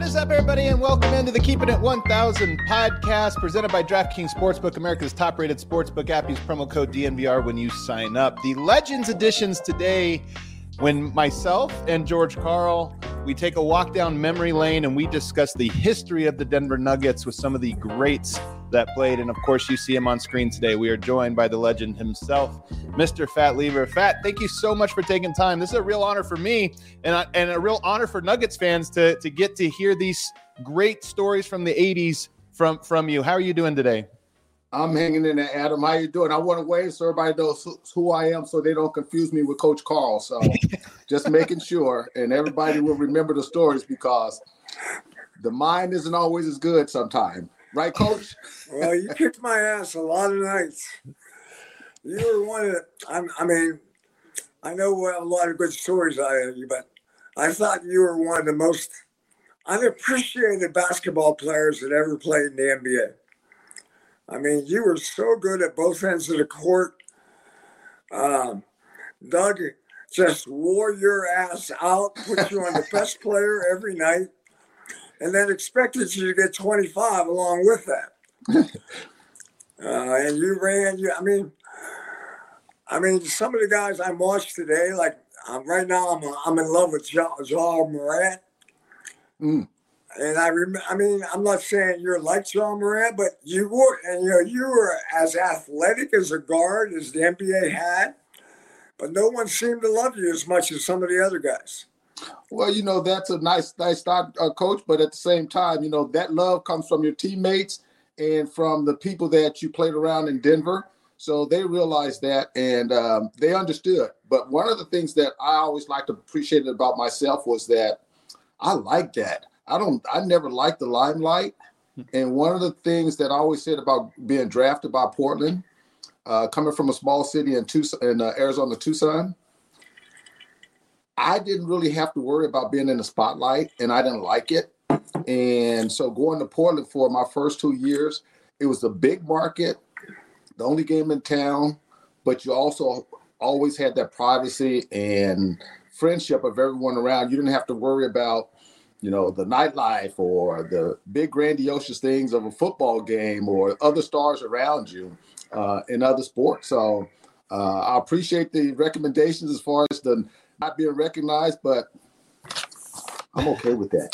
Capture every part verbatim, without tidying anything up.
is up, everybody, and welcome into the Keeping It one thousand podcast presented by DraftKings Sportsbook, America's top-rated sportsbook app. Use promo code D N V R when you sign up. The Legends editions today, when myself and George Karl, we take a walk down memory lane and we discuss the history of the Denver Nuggets with some of the greats that played. And of course, you see him on screen today. We are joined by the legend himself, Mister Fat Lever. Fat, thank you so much for taking time. This is a real honor for me and, I, and a real honor for Nuggets fans to, to get to hear these great stories from the eighties from, from you. How are you doing today? I'm hanging in there, Adam. How you doing? I want to wave so everybody knows who, who I am so they don't confuse me with Coach Karl. So just making sure, and everybody will remember the stories because the mind isn't always as good sometimes. Right, Coach? Well, you kicked my ass a lot of nights. You were one of the, I'm, I mean, I know a lot of good stories out of you, but I thought you were one of the most unappreciated basketball players that ever played in the N B A. I mean, you were so good at both ends of the court. Um, Doug just wore your ass out, put you on the best player every night, and then expected you to get twenty-five along with that. uh, and you ran. You, I mean, I mean, some of the guys I watched today, like um, right now, I'm I'm in love with Ja, Ja Morant. Mm. And I remember, I mean, I'm not saying you're like Ja Morant, but you were, and you know, you were as athletic as a guard as the N B A had, but no one seemed to love you as much as some of the other guys. Well, you know, that's a nice, nice start, uh, Coach, but at the same time, you know, that love comes from your teammates and from the people that you played around in Denver. So they realized that and um, they understood. But one of the things that I always liked to appreciate about myself was that I liked that. I don't. I never liked the limelight, and one of the things that I always said about being drafted by Portland, uh, coming from a small city in Tucson, in uh, Arizona, Tucson, I didn't really have to worry about being in the spotlight, and I didn't like it. And so going to Portland for my first two years, it was a big market, the only game in town, but you also always had that privacy and friendship of everyone around. You didn't have to worry about, you know, the nightlife or the big grandiose things of a football game or other stars around you uh, in other sports. So uh, I appreciate the recommendations as far as the not being recognized, but I'm okay with that.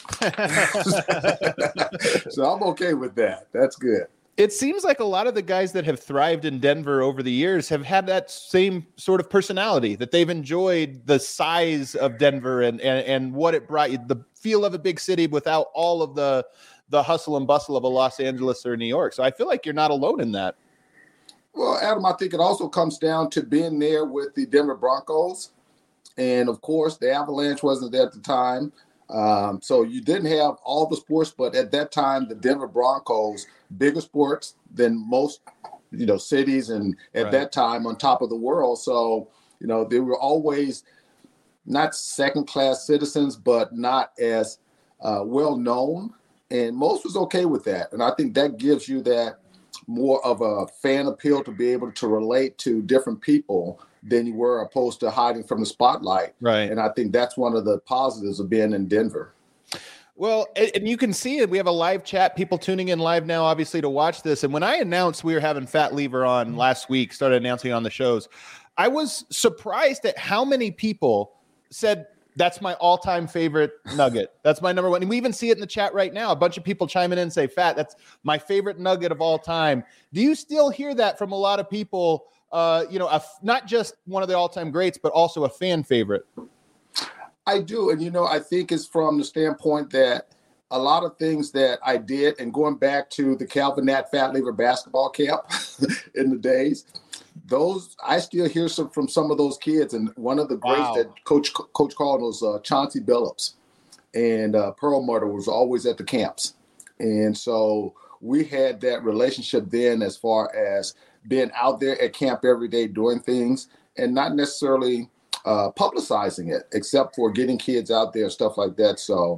So I'm okay with that. That's good. It seems like a lot of the guys that have thrived in Denver over the years have had that same sort of personality, that they've enjoyed the size of Denver and, and, and what it brought you, the feel of a big city without all of the, the hustle and bustle of a Los Angeles or New York. So I feel like you're not alone in that. Well, Adam, I think it also comes down to being there with the Denver Broncos. And, of course, the Avalanche wasn't there at the time. Um, so you didn't have all the sports, but at that time, the Denver Broncos, bigger sports than most, you know, cities and at right. that time on top of the world. So, you know, they were always not second-class citizens, but not as uh, well-known. And most was okay with that. And I think that gives you that more of a fan appeal to be able to relate to different people than you were opposed to hiding from the spotlight. Right. And I think that's one of the positives of being in Denver. Well, and you can see it. We have a live chat, people tuning in live now, obviously, to watch this. And when I announced we were having Fat Lever on last week, started announcing on the shows, I was surprised at how many people said, that's my all-time favorite Nugget. That's my number one. And we even see it in the chat right now. A bunch of people chiming in and say, Fat, that's my favorite Nugget of all time. Do you still hear that from a lot of people? Uh, you know, a, not just one of the all-time greats, but also a fan favorite. I do. And, you know, I think it's from the standpoint that a lot of things that I did, and going back to the Calvin Nat Fat Lever basketball camp in the days, those I still hear some from some of those kids. And one of the greats wow. that Coach Coach called was uh, Chauncey Billups. And uh, Perlmutter was always at the camps. And so we had that relationship then as far as being out there at camp every day doing things and not necessarily uh, publicizing it, except for getting kids out there, stuff like that. So,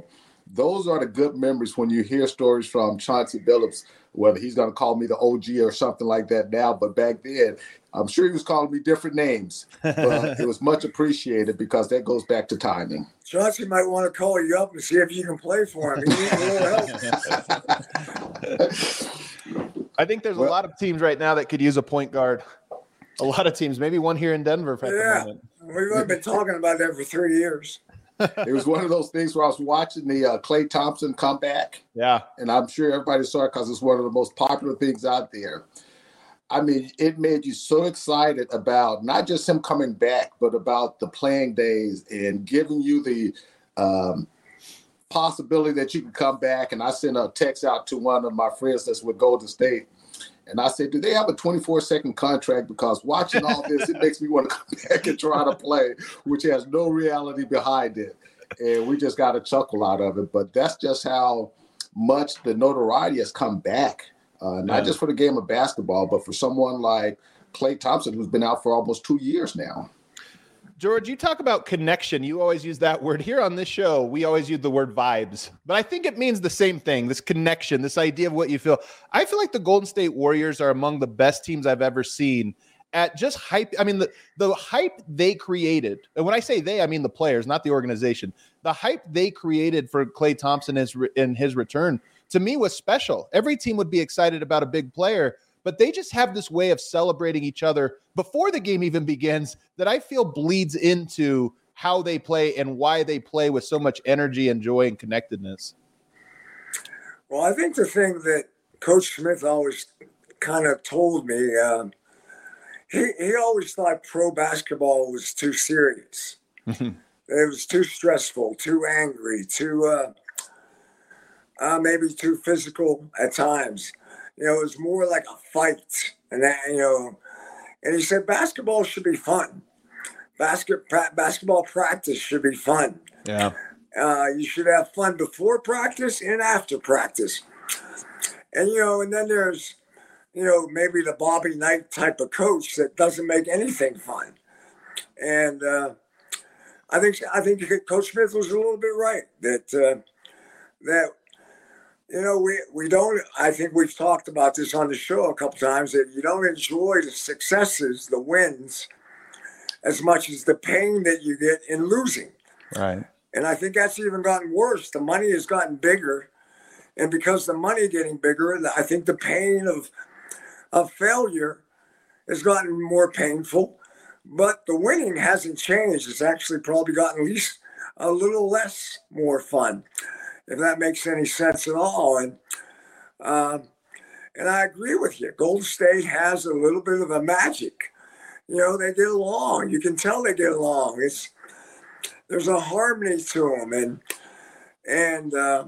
those are the good memories when you hear stories from Chauncey Billups, whether he's going to call me the O G or something like that now. But back then, I'm sure he was calling me different names, but it was much appreciated because that goes back to timing. Chauncey might want to call you up and see if you can play for him. He needs a little help. I think there's well, a lot of teams right now that could use a point guard. A lot of teams, maybe one here in Denver. At yeah, the moment. We've been talking about that for three years. It was one of those things where I was watching the uh, Klay Thompson comeback. Yeah. And I'm sure everybody saw it because it's one of the most popular things out there. I mean, it made you so excited about not just him coming back, but about the playing days and giving you the um, possibility that you can come back. And I sent a text out to one of my friends that's with Golden State. And I said, do they have a twenty-four second contract? Because watching all this, it makes me want to come back and try to play, which has no reality behind it. And we just got a chuckle out of it. But that's just how much the notoriety has come back, uh, not yeah. just for the game of basketball, but for someone like Klay Thompson, who's been out for almost two years now. George, you talk about connection. You always use that word. Here on this show, we always use the word vibes. But I think it means the same thing, this connection, this idea of what you feel. I feel like the Golden State Warriors are among the best teams I've ever seen at just hype. I mean, the, the hype they created, and when I say they, I mean the players, not the organization. The hype they created for Klay Thompson is in his return, to me, was special. Every team would be excited about a big player, but they just have this way of celebrating each other before the game even begins that I feel bleeds into how they play and why they play with so much energy and joy and connectedness. Well, I think the thing that Coach Smith always kind of told me, um, he, he always thought pro basketball was too serious. It was too stressful, too angry, too uh, uh, maybe too physical at times. You know, it was more like a fight. And that, you know, and he said basketball should be fun. Basket pra- basketball practice should be fun. Yeah. Uh, you should have fun before practice and after practice. And, you know, and then there's, you know, maybe the Bobby Knight type of coach that doesn't make anything fun. And uh, I think I think Coach Smith was a little bit right that uh, that. You know, we, we don't, I think we've talked about this on the show a couple times, that you don't enjoy the successes, the wins, as much as the pain that you get in losing. Right. And I think that's even gotten worse. The money has gotten bigger. And because the money getting bigger, I think the pain of, of failure has gotten more painful. But the winning hasn't changed. It's actually probably gotten at least a little less more fun, if that makes any sense at all. And um, and I agree with you. Golden State has a little bit of a magic. You know, they get along. You can tell they get along. It's there's a harmony to them. And, and uh,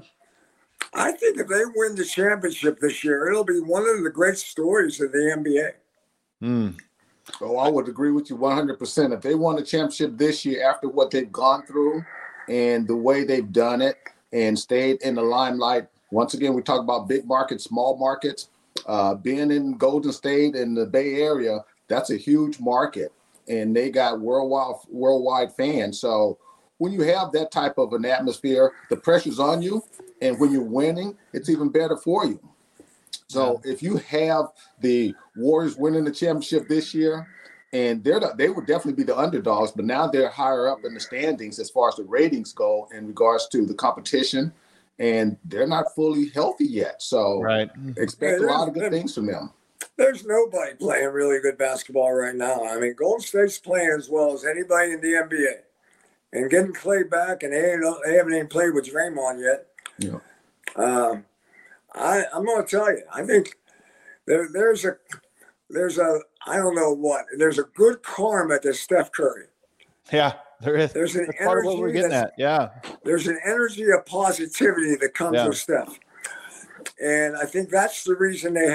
I think if they win the championship this year, it'll be one of the great stories of the N B A. Mm. Oh, I would agree with you one hundred percent. If they won the championship this year after what they've gone through and the way they've done it, and stayed in the limelight. Once again, we talk about big markets, small markets. Uh, being in Golden State and the Bay Area, that's a huge market, and they got worldwide worldwide fans. So when you have that type of an atmosphere, the pressure's on you, and when you're winning, it's even better for you. So yeah. If you have the Warriors winning the championship this year, and they're the, they would definitely be the underdogs, but now they're higher up in the standings as far as the ratings go in regards to the competition, and they're not fully healthy yet. So right. expect yeah, a lot of good things from them. There's nobody playing really good basketball right now. I mean, Golden State's playing as well as anybody in the N B A. And getting Klay back, and they, ain't, they haven't even played with Draymond yet. Yeah. Um, I, I'm going to tell you, I think there, there's a there's a I don't know what. There's a good karma to Steph Curry. Yeah, there is. There's an that's energy part of what we're getting at. Yeah. There's an energy of positivity that comes yeah. with Steph, and I think that's the reason they.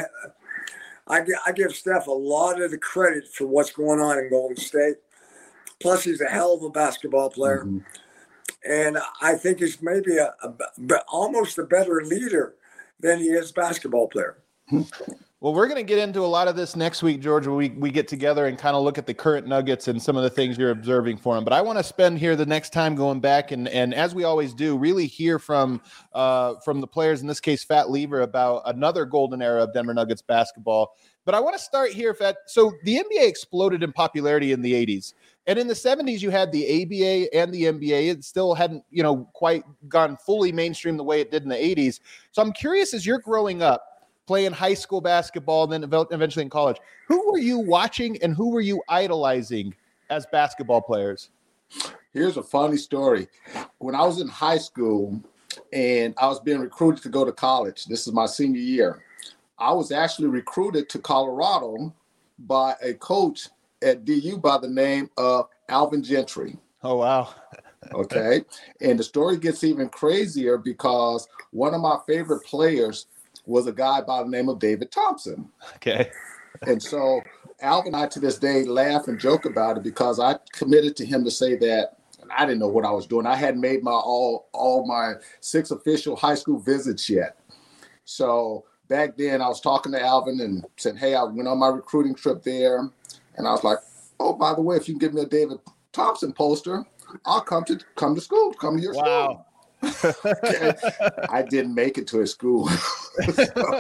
I I give Steph a lot of the credit for what's going on in Golden State. Plus, he's a hell of a basketball player, mm-hmm. and I think he's maybe a, a almost a better leader than he is basketball player. Well, we're going to get into a lot of this next week, George, when we, we get together and kind of look at the current Nuggets and some of the things you're observing for them. But I want to spend here the next time going back and, and as we always do, really hear from uh, from the players, in this case, Fat Lever, about another golden era of Denver Nuggets basketball. But I want to start here, Fat. So the N B A exploded in popularity in the eighties. And in the seventies, you had the A B A and the N B A. It still hadn't, you know, quite gone fully mainstream the way it did in the eighties. So I'm curious, as you're growing up, playing high school basketball, and then eventually in college, who were you watching and who were you idolizing as basketball players? Here's a funny story. When I was in high school and I was being recruited to go to college, this is my senior year, I was actually recruited to Colorado by a coach at D U by the name of Alvin Gentry. Oh, wow. Okay. And the story gets even crazier because one of my favorite players was a guy by the name of David Thompson. Okay. And so Alvin and I to this day laugh and joke about it because I committed to him to say that, and I didn't know what I was doing. I hadn't made my all all my six official high school visits yet. So back then I was talking to Alvin and said, hey, I went on my recruiting trip there. And I was like, oh, by the way, if you can give me a David Thompson poster, I'll come to come to school, come to your wow. school. Okay. I didn't make it to his school. so,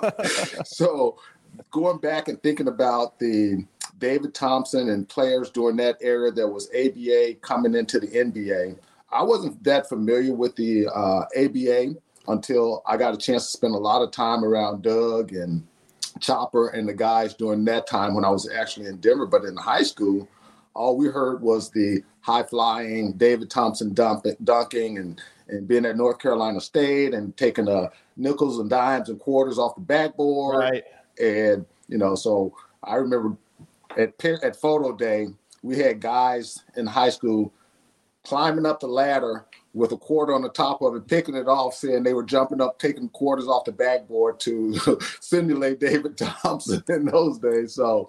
so going back and thinking about the David Thompson and players during that era, there was A B A coming into the N B A. I wasn't that familiar with the uh, A B A until I got a chance to spend a lot of time around Doug and Chopper and the guys during that time when I was actually in Denver. But in high school, all we heard was the high-flying David Thompson dump, dunking and, and being at North Carolina State and taking the nickels and dimes and quarters off the backboard. Right. And, you know, so I remember at, at photo day, we had guys in high school climbing up the ladder with a quarter on the top of it, picking it off, saying they were jumping up, taking quarters off the backboard to simulate David Thompson in those days. So,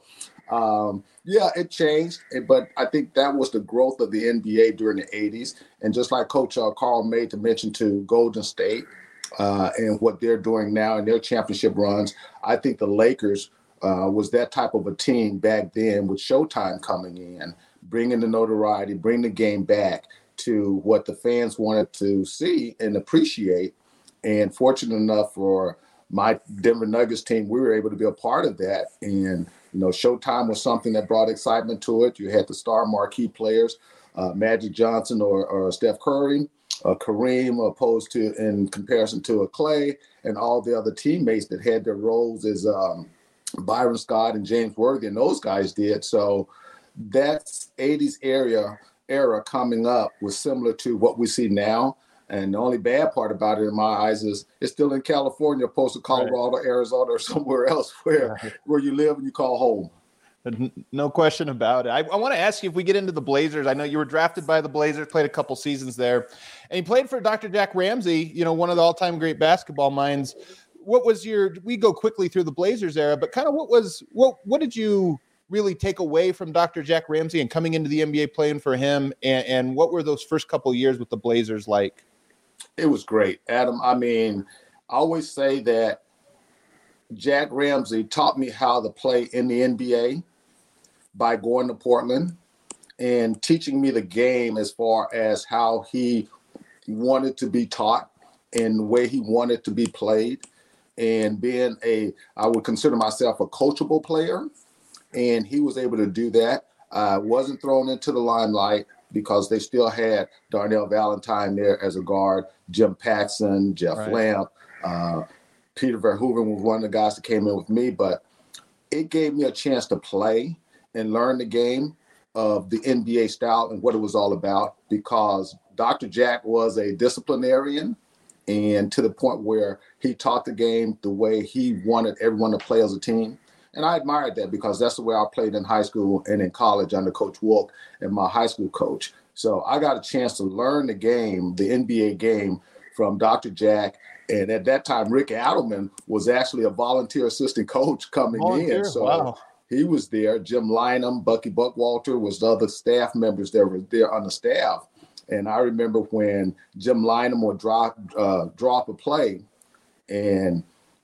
um, yeah, it changed, but I think that was the growth of the N B A during the eighties. And just like Coach uh, Carl made to mention to Golden State uh, and what they're doing now in their championship runs, I think the Lakers uh, was that type of a team back then with Showtime coming in, bringing the notoriety, bring the game back to what the fans wanted to see and appreciate. And fortunate enough for my Denver Nuggets team, we were able to be a part of that. And, you know, Showtime was something that brought excitement to it. You had the star marquee players, uh, Magic Johnson or, or Steph Curry, uh, Kareem, opposed to in comparison to a Clay, and all the other teammates that had their roles as um, Byron Scott and James Worthy, and those guys did. So that's eighties area era coming up was similar to what we see now. And the only bad part about it in my eyes is it's still in California, opposed to Colorado, right, Arizona, or somewhere else where, right, where you live and you call home. No question about it. I, I want to ask you, if we get into the Blazers, I know you were drafted by the Blazers, played a couple seasons there, and you played for Doctor Jack Ramsey, you know, one of the all-time great basketball minds. What was your, we go quickly through the Blazers era, but kind of what was, what, what did you really take away from Doctor Jack Ramsey and coming into the N B A playing for him? And, and what were those first couple of years with the Blazers like? It was great, Adam. I mean, I always say that Jack Ramsey taught me how to play in the N B A by going to Portland and teaching me the game as far as how he wanted to be taught and the way he wanted to be played, and being a, I would consider myself a coachable player. And he was able to do that. I uh, wasn't thrown into the limelight because they still had Darnell Valentine there as a guard, Jim Paxson, Jeff right. Lamp, uh, Peter Verhoeven was one of the guys that came in with me. But it gave me a chance to play and learn the game of the N B A style and what it was all about, because Doctor Jack was a disciplinarian, and to the point where he taught the game the way he wanted everyone to play as a team. And I admired that because that's the way I played in high school and in college under Coach Wilk and my high school coach. So I got a chance to learn the game, the N B A game, from Doctor Jack. And at that time, Rick Adelman was actually a volunteer assistant coach coming volunteer? in. So wow. He was there. Jim Lynam, Bucky Buckwalter was the other staff members that were there on the staff. And I remember when Jim Lynam would drop, uh, drop a play and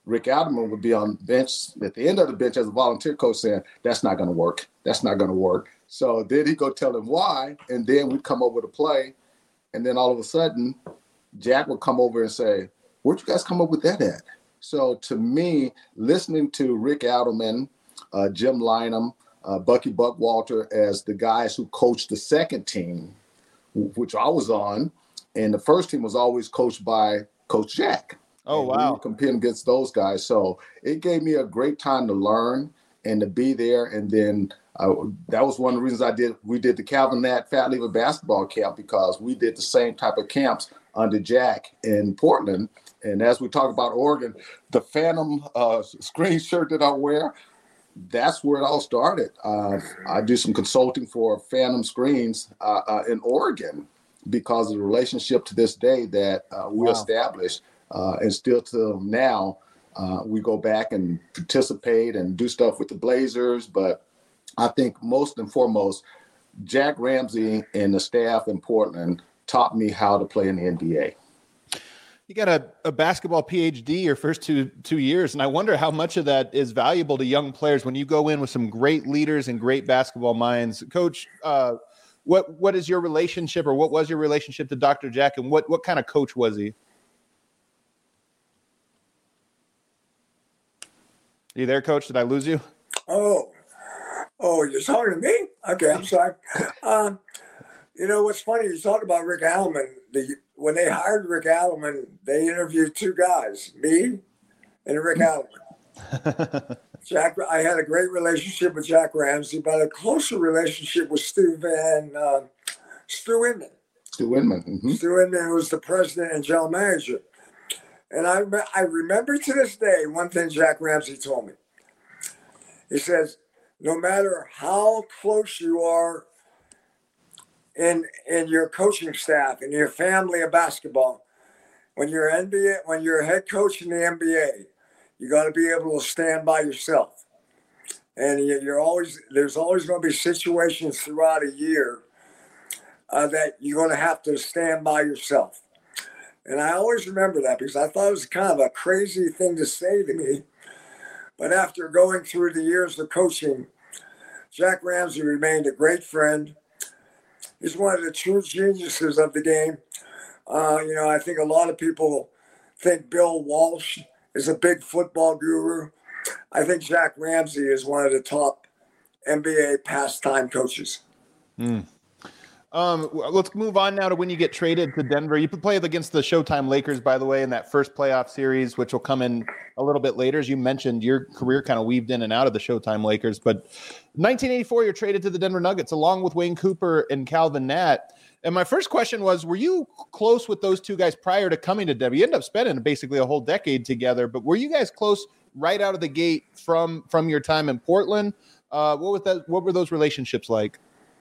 Rick Adelman would be on the bench at the end of the bench as a volunteer coach saying, that's not going to work. That's not going to work. So then he'd go tell him why, and then we'd come up with a play. And then all of a sudden, Jack would come over and say, where'd you guys come up with that at? So to me, listening to Rick Adelman, uh, Jim Lynam, uh, Bucky Buckwalter as the guys who coached the second team, which I was on, and the first team was always coached by Coach Jack. Oh, and wow. We were competing against those guys. So it gave me a great time to learn and to be there. And then uh, that was one of the reasons I did, we did the Calvin Nat Fat Lever basketball camp, because we did the same type of camps under Jack in Portland. And as we talk about Oregon, the Phantom uh, screen shirt that I wear, that's where it all started. Uh, I do some consulting for Phantom Screens uh, uh, in Oregon because of the relationship to this day that uh, we Wow. established. Uh, and still till now, uh, we go back and participate and do stuff with the Blazers. But I think most and foremost, Jack Ramsay and the staff in Portland taught me how to play in the N B A. You got a, a basketball P H D your first two two years, and I wonder how much of that is valuable to young players when you go in with some great leaders and great basketball minds. Coach, uh, what what is your relationship, or what was your relationship to Doctor Jack, and what what kind of coach was he? Are you there, Coach? Did I lose you? Oh, oh, you're talking to me? Okay, I'm sorry. Um, you know what's funny? You talk about Rick Adelman. The, when they hired Rick Adelman, they interviewed two guys, me and Rick Adelman. Jack, I had a great relationship with Jack Ramsay, but a closer relationship with Stu Van, uh, Stu Inman. Stu Inman. Mm-hmm. Stu Inman, who was the president and general manager. And I, I remember to this day one thing Jack Ramsay told me. He says, no matter how close you are in in your coaching staff and your family of basketball, when you're N B A, when you're a head coach in the N B A, you got to be able to stand by yourself. And you're always there's always going to be situations throughout a year uh, that you're going to have to stand by yourself. And I always remember that because I thought it was kind of a crazy thing to say to me. But after going through the years of coaching, Jack Ramsay remained a great friend. He's one of the true geniuses of the game. Uh, you know, I think a lot of people think Bill Walsh is a big football guru. I think Jack Ramsay is one of the top N B A pastime coaches. Mm. Um, let's move on now to when you get traded to Denver. You played against the Showtime Lakers, by the way, in that first playoff series, which will come in a little bit later. As you mentioned, your career kind of weaved in and out of the Showtime Lakers. But nineteen eighty-four, you're traded to the Denver Nuggets along with Wayne Cooper and Calvin Nat. And my first question was, were you close with those two guys prior to coming to Denver? You ended up spending basically a whole decade together, but were you guys close right out of the gate from, from your time in Portland? Uh, what was that? What were those relationships like?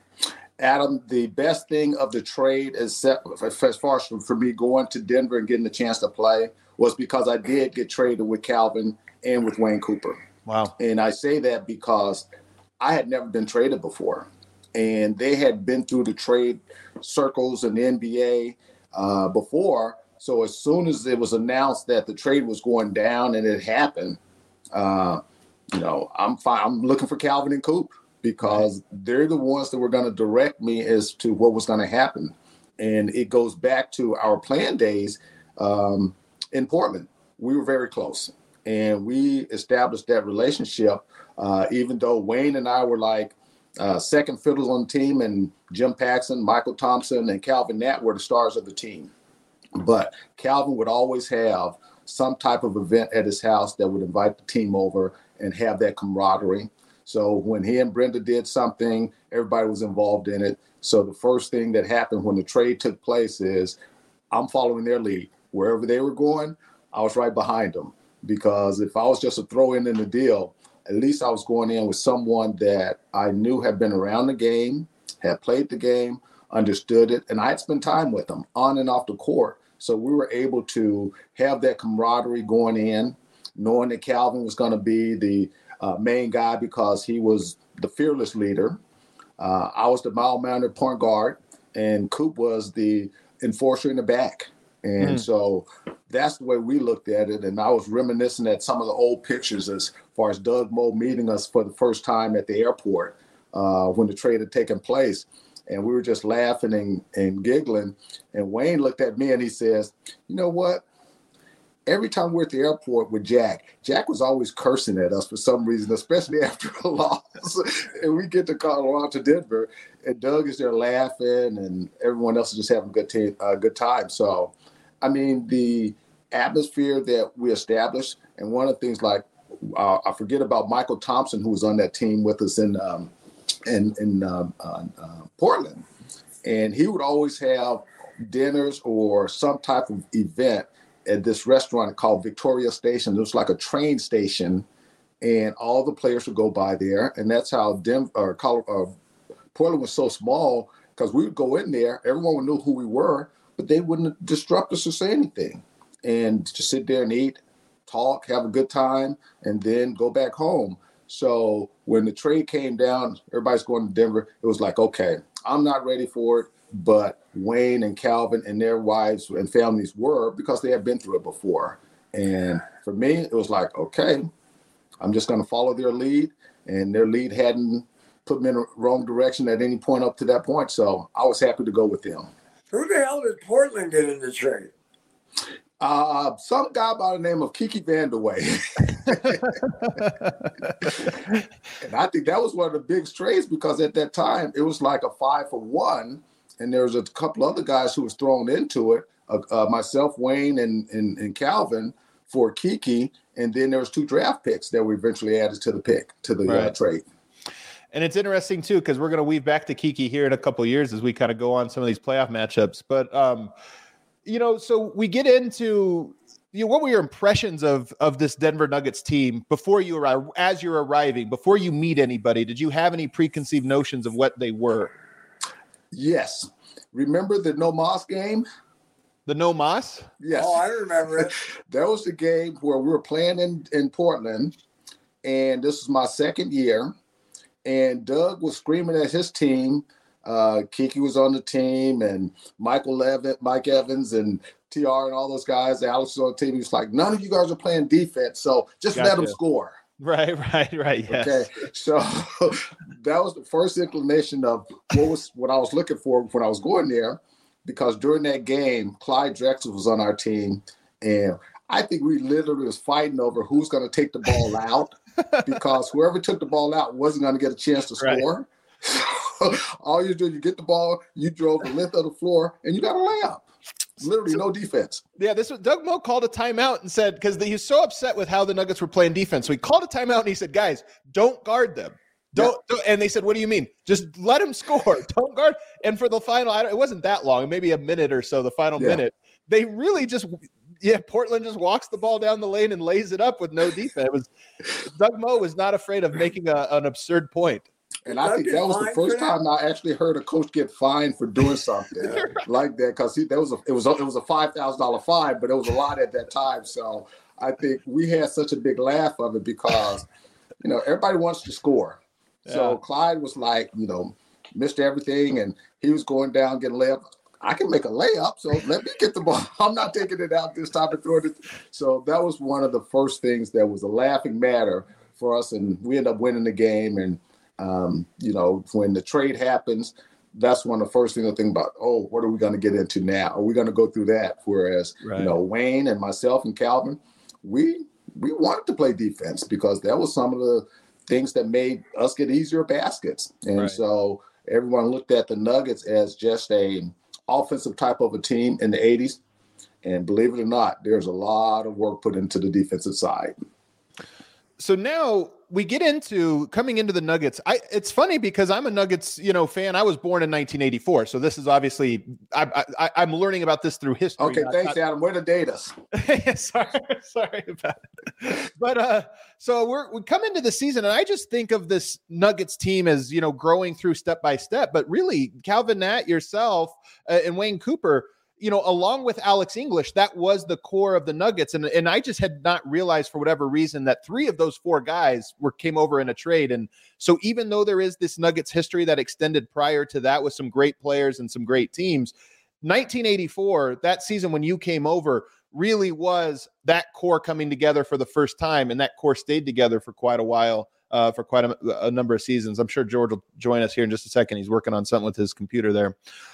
Adam, the best thing of the trade, is as far as for me going to Denver and getting the chance to play, was because I did get traded with Calvin and with Wayne Cooper. Wow. And I say that because I had never been traded before. And they had been through the trade circles in the N B A uh, before. So as soon as it was announced that the trade was going down and it happened, uh, you know, I'm fine. I'm looking for Calvin and Coop, because they're the ones that were going to direct me as to what was going to happen. And it goes back to our playing days um, in Portland. We were very close, and we established that relationship, uh, even though Wayne and I were like uh, second fiddles on the team, and Jim Paxson, Michael Thompson, and Calvin Nat were the stars of the team. But Calvin would always have some type of event at his house that would invite the team over and have that camaraderie. So when he and Brenda did something, everybody was involved in it. So the first thing that happened when the trade took place is I'm following their lead. Wherever they were going, I was right behind them. Because if I was just a throw-in in the deal, at least I was going in with someone that I knew had been around the game, had played the game, understood it, and I had spent time with them on and off the court. So we were able to have that camaraderie going in, knowing that Calvin was going to be the Uh, main guy because he was the fearless leader. Uh, I was the mild-mannered point guard, and Coop was the enforcer in the back. And mm. so that's the way we looked at it. And I was reminiscing at some of the old pictures as far as Doug Moe meeting us for the first time at the airport uh, when the trade had taken place. And we were just laughing and, and giggling. And Wayne looked at me and he says, you know what? Every time we're at the airport with Jack, Jack was always cursing at us for some reason, especially after a loss. And we get to Colorado to Denver, and Doug is there laughing, and everyone else is just having a good, t- uh, good time. So, I mean, the atmosphere that we established, and one of the things like, uh, I forget about Michael Thompson, who was on that team with us in um, in, in uh, uh, uh, Portland. And he would always have dinners or some type of event at this restaurant called Victoria Station. It was like a train station, and all the players would go by there. And that's how Denver, or Colorado, uh, Portland was so small, because we would go in there, everyone would know who we were, but they wouldn't disrupt us or say anything. And just sit there and eat, talk, have a good time, and then go back home. So when the trade came down, everybody's going to Denver. It was like, okay, I'm not ready for it, but Wayne and Calvin and their wives and families were, because they had been through it before. And for me, it was like, okay, I'm just going to follow their lead. And their lead hadn't put me in the wrong direction at any point up to that point. So I was happy to go with them. Who the hell did Portland get in the trade? Uh, some guy by the name of Kiki Vandeweghe. And I think that was one of the big trades, because at that time it was like a five for one, and there was a couple other guys who was thrown into it, uh, uh, myself, Wayne, and, and and Calvin for Kiki, and then there was two draft picks that were eventually added to the pick to the right. uh, trade. And it's interesting too, because we're going to weave back to Kiki here in a couple of years as we kind of go on some of these playoff matchups. But um, you know, so we get into, you know, what were your impressions of of this Denver Nuggets team before you arrive, as you're arriving, before you meet anybody? Did you have any preconceived notions of what they were? Yes. Remember the No Moss game? The No Moss? Yes. Oh, I remember it. That was the game where we were playing in, in Portland, and this was my second year, and Doug was screaming at his team. Uh, Kiki was on the team, and Michael Levin, Mike Evans, and T R and all those guys. Alex was on the team. He was like, none of you guys are playing defense, so just gotcha. Let them score. Right, right, right. Yes. Okay, so that was the first inclination of what was what I was looking for when I was going there, because during that game, Clyde Drexler was on our team, and I think we literally was fighting over who's going to take the ball out, because whoever took the ball out wasn't going to get a chance to score. Right. All you do, you get the ball, you drove the length of the floor, and you got a layup. Literally no defense. Yeah, this was Doug Moe called a timeout and said, because he was so upset with how the Nuggets were playing defense. So he called a timeout and he said, guys, don't guard them. Don't, yeah. don't and they said, what do you mean? Just let him score. Don't guard. And for the final, I don't, it wasn't that long, maybe a minute or so, the final yeah. minute, they really just, yeah, Portland just walks the ball down the lane and lays it up with no defense. It was, Doug Moe was not afraid of making a, an absurd point. And I think that was the first time I actually heard a coach get fined for doing something like that, because that was a it was a, it was a five thousand dollar fine, but it was a lot at that time. So I think we had such a big laugh of it, because you know everybody wants to score. Yeah. So Clyde was like, you know, missed everything, and he was going down getting layup. I can make a layup, so let me get the ball. I'm not taking it out this time and throwing it. So that was one of the first things that was a laughing matter for us, and we ended up winning the game. And Um, you know, when the trade happens, that's one of the first things I think about, oh, what are we going to get into now? Are we going to go through that? Whereas, right. you know, Wayne and myself and Calvin, we we wanted to play defense, because that was some of the things that made us get easier baskets. And right. so everyone looked at the Nuggets as just a offensive type of a team in the eighties. And believe it or not, there's a lot of work put into the defensive side. So now we get into coming into the Nuggets. I it's funny because I'm a Nuggets, you know, fan. I was born in nineteen eighty-four. So this is obviously, I, I, I'm learning about this through history. Okay. Not, thanks, not, Adam. Way to date us. sorry, sorry about it. But uh, so we're, we come into the season, and I just think of this Nuggets team as, you know, growing through step by step, but really Calvin Nat, yourself, uh, and Wayne Cooper, you know, along with Alex English, that was the core of the Nuggets. And, and I just had not realized for whatever reason that three of those four guys were came over in a trade. And so even though there is this Nuggets history that extended prior to that with some great players and some great teams, nineteen eighty-four, that season when you came over, really was that core coming together for the first time, and that core stayed together for quite a while, uh, for quite a, a number of seasons. I'm sure George will join us here in just a second. He's working on something with his computer there.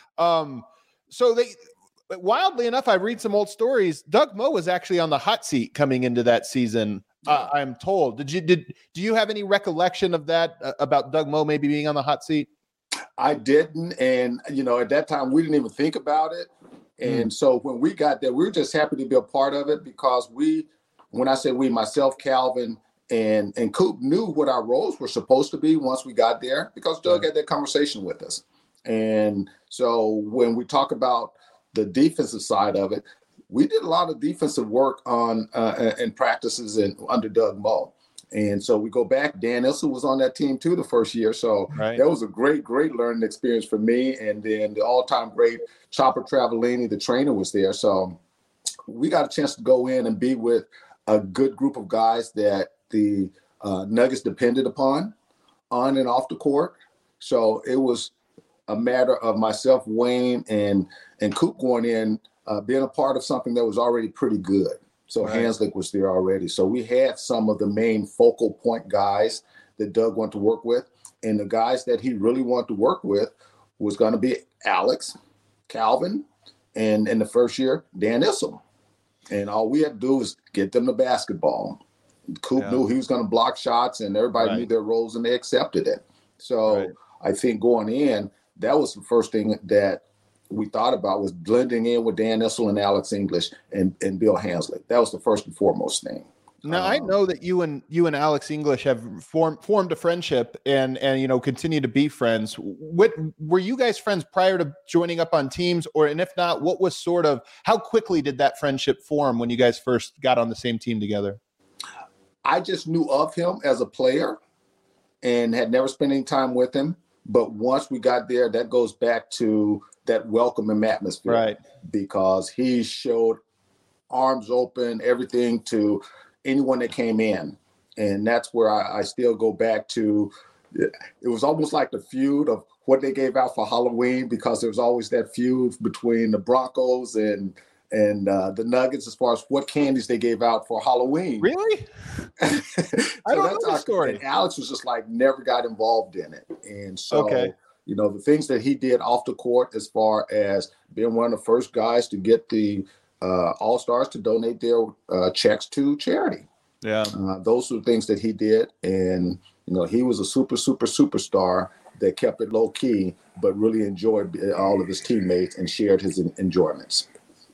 Um, so they, wildly enough, I read some old stories. Doug Moe was actually on the hot seat coming into that season. Uh, I'm told. Did you did do you have any recollection of that uh, about Doug Moe maybe being on the hot seat? I didn't, and you know, at that time we didn't even think about it. And mm. so when we got there, we were just happy to be a part of it because we, when I say we, myself, Calvin, and and Coop knew what our roles were supposed to be once we got there because Doug mm. had that conversation with us. And so when we talk about the defensive side of it, we did a lot of defensive work on uh, and practices in, under Doug Moe. And so we go back, Dan Issel was on that team too the first year. So right. that was a great, great learning experience for me. And then the all-time great Chopper Travellini, the trainer, was there. So we got a chance to go in and be with a good group of guys that the uh, Nuggets depended upon on and off the court. So it was a matter of myself, Wayne, and, and Coop going in, Uh, being a part of something that was already pretty good. So right. Hanslick was there already. So we had some of the main focal point guys that Doug wanted to work with. And the guys that he really wanted to work with was going to be Alex, Calvin, and in the first year, Dan Issel. And all we had to do was get them the basketball. Coop yeah. knew he was going to block shots, and everybody right. knew their roles, and they accepted it. So right. I think going in, that was the first thing that we thought about was blending in with Dan Issel and Alex English and, and Bill Hanslick. That was the first and foremost thing. Now um, I know that you and you and Alex English have formed formed a friendship and and you know continue to be friends. What were you guys friends prior to joining up on teams, or and if not, what was sort of how quickly did that friendship form when you guys first got on the same team together? I just knew of him as a player and had never spent any time with him. But once we got there, that goes back to that welcoming atmosphere, right? Because he showed arms open, everything to anyone that came in. And that's where I, I still go back to, it was almost like the feud of what they gave out for Halloween, because there was always that feud between the Broncos and and uh, the Nuggets as far as what candies they gave out for Halloween. Really? so I don't know the story. And Alex was just like never got involved in it. And so, okay. you know, the things that he did off the court as far as being one of the first guys to get the uh, All-Stars to donate their uh, checks to charity. Yeah. Uh, those were things that he did. And, you know, he was a super, super, superstar that kept it low key, but really enjoyed all of his teammates and shared his enjoyments.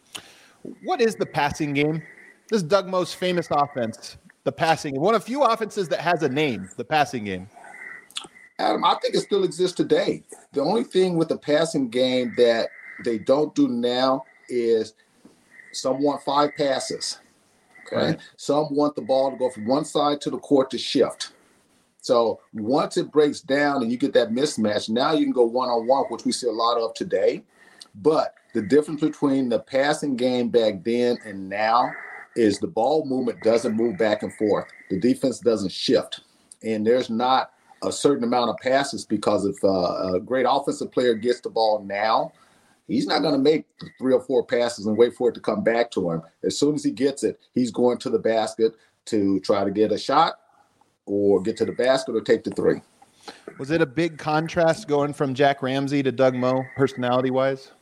What is the passing game? This is Doug Moe's famous offense, the passing game. One of few offenses that has a name, the passing game. Adam, I think it still exists today. The only thing with the passing game that they don't do now is some want five passes. Okay. Right. Some want the ball to go from one side to the court to shift. So once it breaks down and you get that mismatch, now you can go one-on-one, which we see a lot of today. But the difference between the passing game back then and now is the ball movement doesn't move back and forth. The defense doesn't shift. And there's not a certain amount of passes, because if uh, a great offensive player gets the ball now, he's not going to make three or four passes and wait for it to come back to him. As soon as he gets it, he's going to the basket to try to get a shot or get to the basket or take the three. Was it a big contrast going from Jack Ramsey to Doug Moe, personality-wise?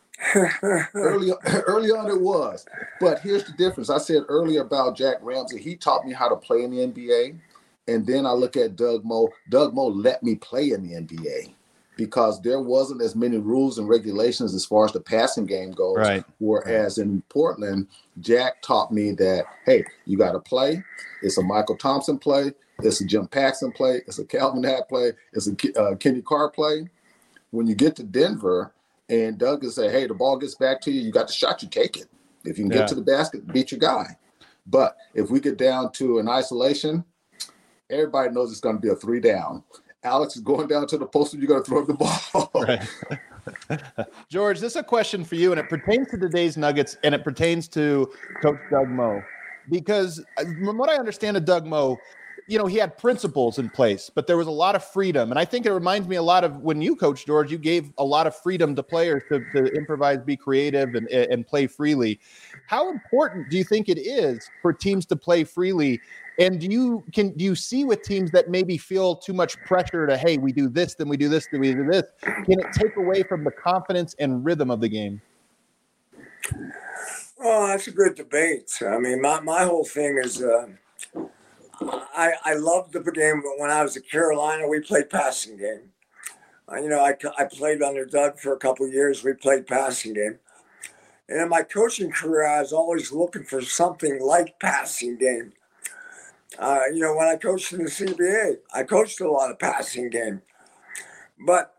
early, early on it was. But here's the difference. I said earlier about Jack Ramsey, he taught me how to play in the N B A. And then I look at Doug Moe. Doug Moe let me play in the N B A because there wasn't as many rules and regulations as far as the passing game goes. Right. Whereas in Portland, Jack taught me that, hey, you got to play. It's a Michael Thompson play. It's a Jim Paxson play. It's a Calvin Hatt play. It's a uh, Kenny Carr play. When you get to Denver and Doug will say, hey, the ball gets back to you, you got the shot, you take it. If you can yeah. get to the basket, beat your guy. But if we get down to an isolation, everybody knows it's going to be a three down. Alex is going down to the post and you're going to throw the ball. Right. George, this is a question for you, and it pertains to today's Nuggets, and it pertains to Coach Doug Moe. Because from what I understand of Doug Moe, you know, he had principles in place, but there was a lot of freedom. And I think it reminds me a lot of when you coached, George, you gave a lot of freedom to players to, to improvise, be creative, and, and play freely. How important do you think it is for teams to play freely? And do you can do you see with teams that maybe feel too much pressure to, hey, we do this, then we do this, then we do this? Can it take away from the confidence and rhythm of the game? Oh, that's a good debate. I mean, my, my whole thing is uh, I, I loved the game, but when I was at Carolina, we played passing game. Uh, you know, I, I played under Doug for a couple of years. We played passing game. And in my coaching career, I was always looking for something like passing game. Uh, you know, when I coached in the C B A, I coached a lot of passing game. But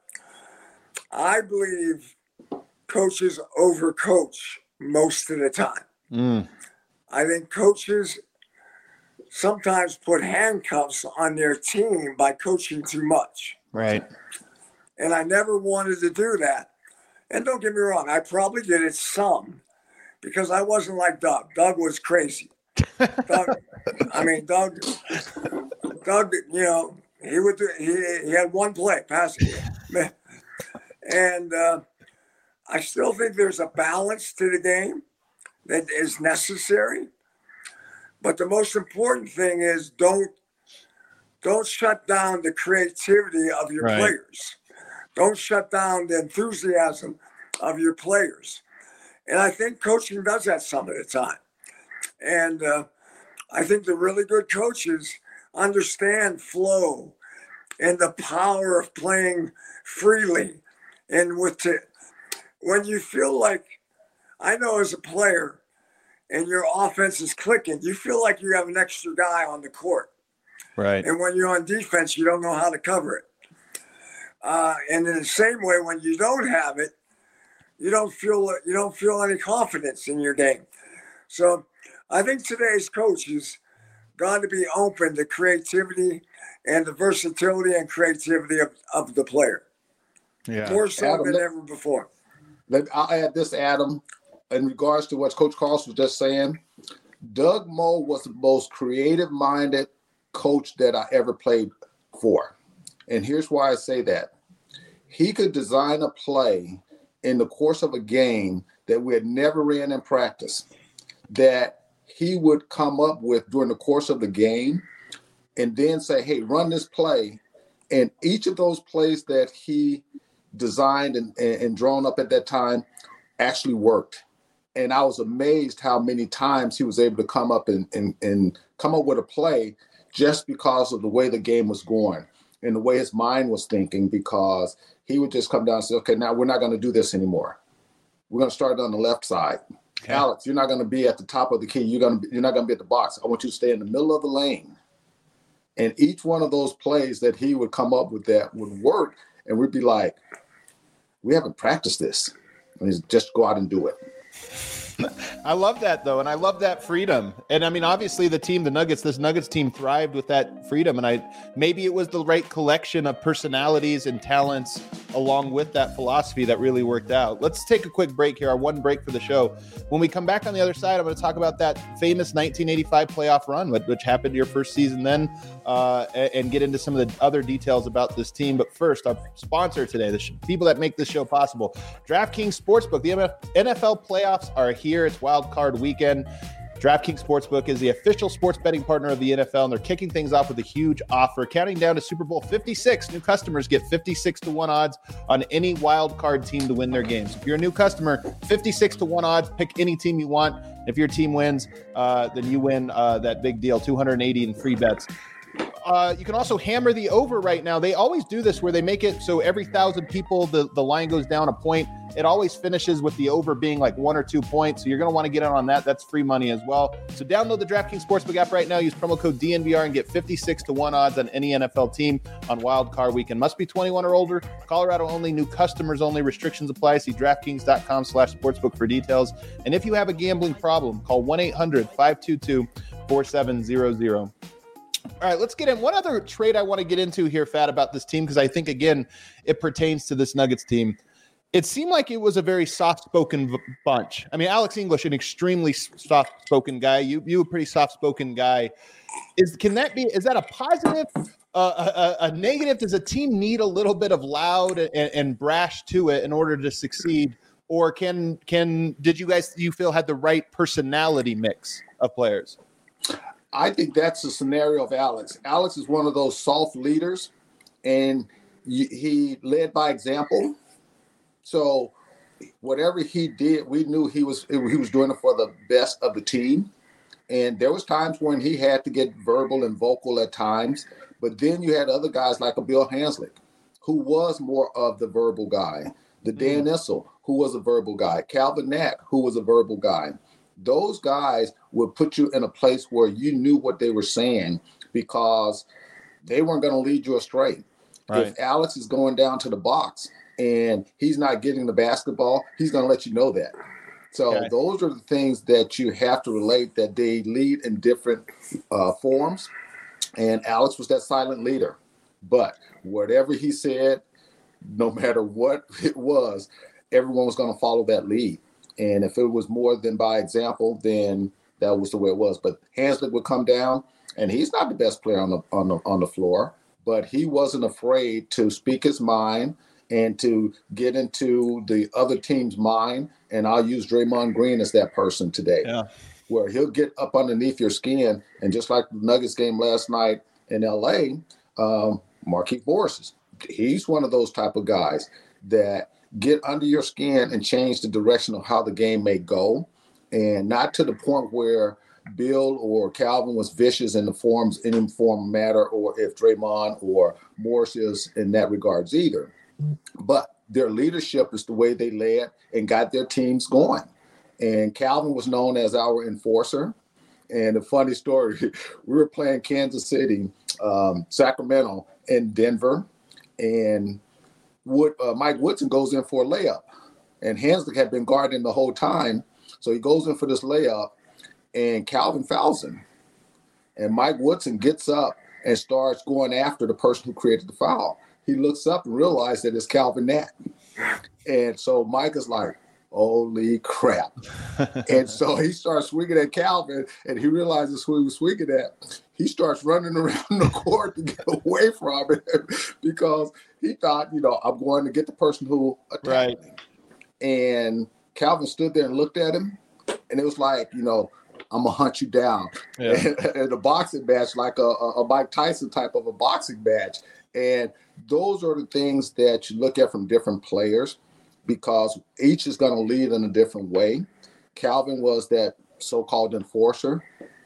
I believe coaches overcoach most of the time. Mm. I think coaches sometimes put handcuffs on their team by coaching too much. Right. And I never wanted to do that. And don't get me wrong, I probably did it some because I wasn't like Doug. Doug was crazy. Doug, I mean, Doug, Doug, you know, he would do, he, he had one play, passing. And uh, I still think there's a balance to the game that is necessary. But the most important thing is don't don't shut down the creativity of your right. players. Don't shut down the enthusiasm of your players. And I think coaching does that some of the time. And uh, I think the really good coaches understand flow and the power of playing freely. And with the, when you feel like, I know as a player, and your offense is clicking, you feel like you have an extra guy on the court. Right. And when you're on defense, you don't know how to cover it. Uh, and in the same way, when you don't have it, you don't feel you don't feel any confidence in your game. So I think today's coaches got to be open to creativity and the versatility and creativity of, of the player. Yeah. More so Adam, than let, ever before. Let, I'll add this, Adam, in regards to what Coach Carlson was just saying. Doug Moe was the most creative-minded coach that I ever played for. And here's why I say that. He could design a play in the course of a game that we had never ran in practice, that he would come up with during the course of the game and then say, hey, run this play. And each of those plays that he designed and, and, and drawn up at that time actually worked. And I was amazed how many times he was able to come up and, and, and come up with a play just because of the way the game was going and the way his mind was thinking, because he would just come down and say, okay, now we're not going to do this anymore. We're going to start on the left side. Okay. Alex, you're not going to be at the top of the key. You're going to be, you're not going to be at the box. I want you to stay in the middle of the lane. And each one of those plays that he would come up with that would work. And we'd be like, we haven't practiced this. And he's just go out and do it. I love that, though, and I love that freedom. And I mean, obviously, the team, the Nuggets, this Nuggets team thrived with that freedom. And I maybe it was the right collection of personalities and talents along with that philosophy that really worked out. Let's take a quick break here, our one break for the show. When we come back on the other side, I'm going to talk about that famous nineteen eighty-five playoff run, which happened your first season then, uh, and get into some of the other details about this team. But first, our sponsor today, the sh- people that make this show possible, DraftKings Sportsbook. The N F L playoffs are here. It's wild card weekend. DraftKings Sportsbook is the official sports betting partner of the N F L, and they're kicking things off with a huge offer. Counting down to Super Bowl fifty-six, new customers get fifty-six to one odds on any wild card team to win their games. If you're a new customer, fifty-six to one odds, pick any team you want. If your team wins, uh, then you win uh, that big deal, two hundred eighty in free bets. Uh, you can also hammer the over right now. They always do this where they make it so every thousand people, the, the line goes down a point. It always finishes with the over being like one or two points. So you're going to want to get in on that. That's free money as well. So download the DraftKings Sportsbook app right now. Use promo code D N V R and get fifty-six to one odds on any N F L team on Wild Card Weekend. Must be twenty-one or older. Colorado only. New customers only. Restrictions apply. See DraftKings.com slash sportsbook for details. And if you have a gambling problem, call one eight hundred five two two four seven zero zero. All right, let's get in. One other trade I want to get into here, Fat, about this team, because I think, again, it pertains to this Nuggets team. it seemed like it was a very soft-spoken v- bunch. I mean, Alex English, an extremely soft-spoken guy. You, you a pretty soft-spoken guy. Is can that be? Is that a positive, uh, a, a negative? Does a team need a little bit of loud and, and brash to it in order to succeed, or can can did you guys do you feel had the right personality mix of players? I think that's the scenario of Alex. Alex is one of those soft leaders, and he led by example. So whatever he did, we knew he was he was doing it for the best of the team. And there was times when he had to get verbal and vocal at times. But then you had other guys like a Bill Hanslick, who was more of the verbal guy. The Dan Issel, who was a verbal guy. Calvin Knack, who was a verbal guy. Those guys would put you in a place where you knew what they were saying because they weren't going to lead you astray. Right. If Alex is going down to the box and he's not getting the basketball, he's going to let you know that. So okay. Those are the things that you have to relate, that they lead in different uh, forms. And Alex was that silent leader. But whatever he said, no matter what it was, everyone was going to follow that lead. And if it was more than by example, then that was the way it was. But Hanslick would come down, and he's not the best player on the on the on the floor, but he wasn't afraid to speak his mind and to get into the other team's mind. And I'll use Draymond Green as that person today, yeah. where he'll get up underneath your skin. And just like the Nuggets game last night in L A, um, Markieff Morris, he's one of those type of guys that get under your skin and change the direction of how the game may go. And not to the point where Bill or Calvin was vicious in the forms, in any form matter, or if Draymond or Morris is in that regards either. But their leadership is the way they led and got their teams going. And Calvin was known as our enforcer. And a funny story, we were playing Kansas City, um, Sacramento, and Denver. And Wood, uh, Mike Woodson goes in for a layup. And Hanslick had been guarding the whole time. So he goes in for this layup, and Calvin fouls him. And Mike Woodson gets up and starts going after the person who created the foul. He looks up and realizes that it's Calvin Knack. And so Mike is like, holy crap. And so he starts swinging at Calvin, and he realizes who he was swinging at. He starts running around the court to get away from it because he thought, you know, I'm going to get the person who attacked right. me. And Calvin stood there and looked at him, and it was like, you know, I'm going to hunt you down. Yeah. And, and a boxing match, like a, a Mike Tyson type of a boxing match. And those are the things that you look at from different players because each is going to lead in a different way. Calvin was that so-called enforcer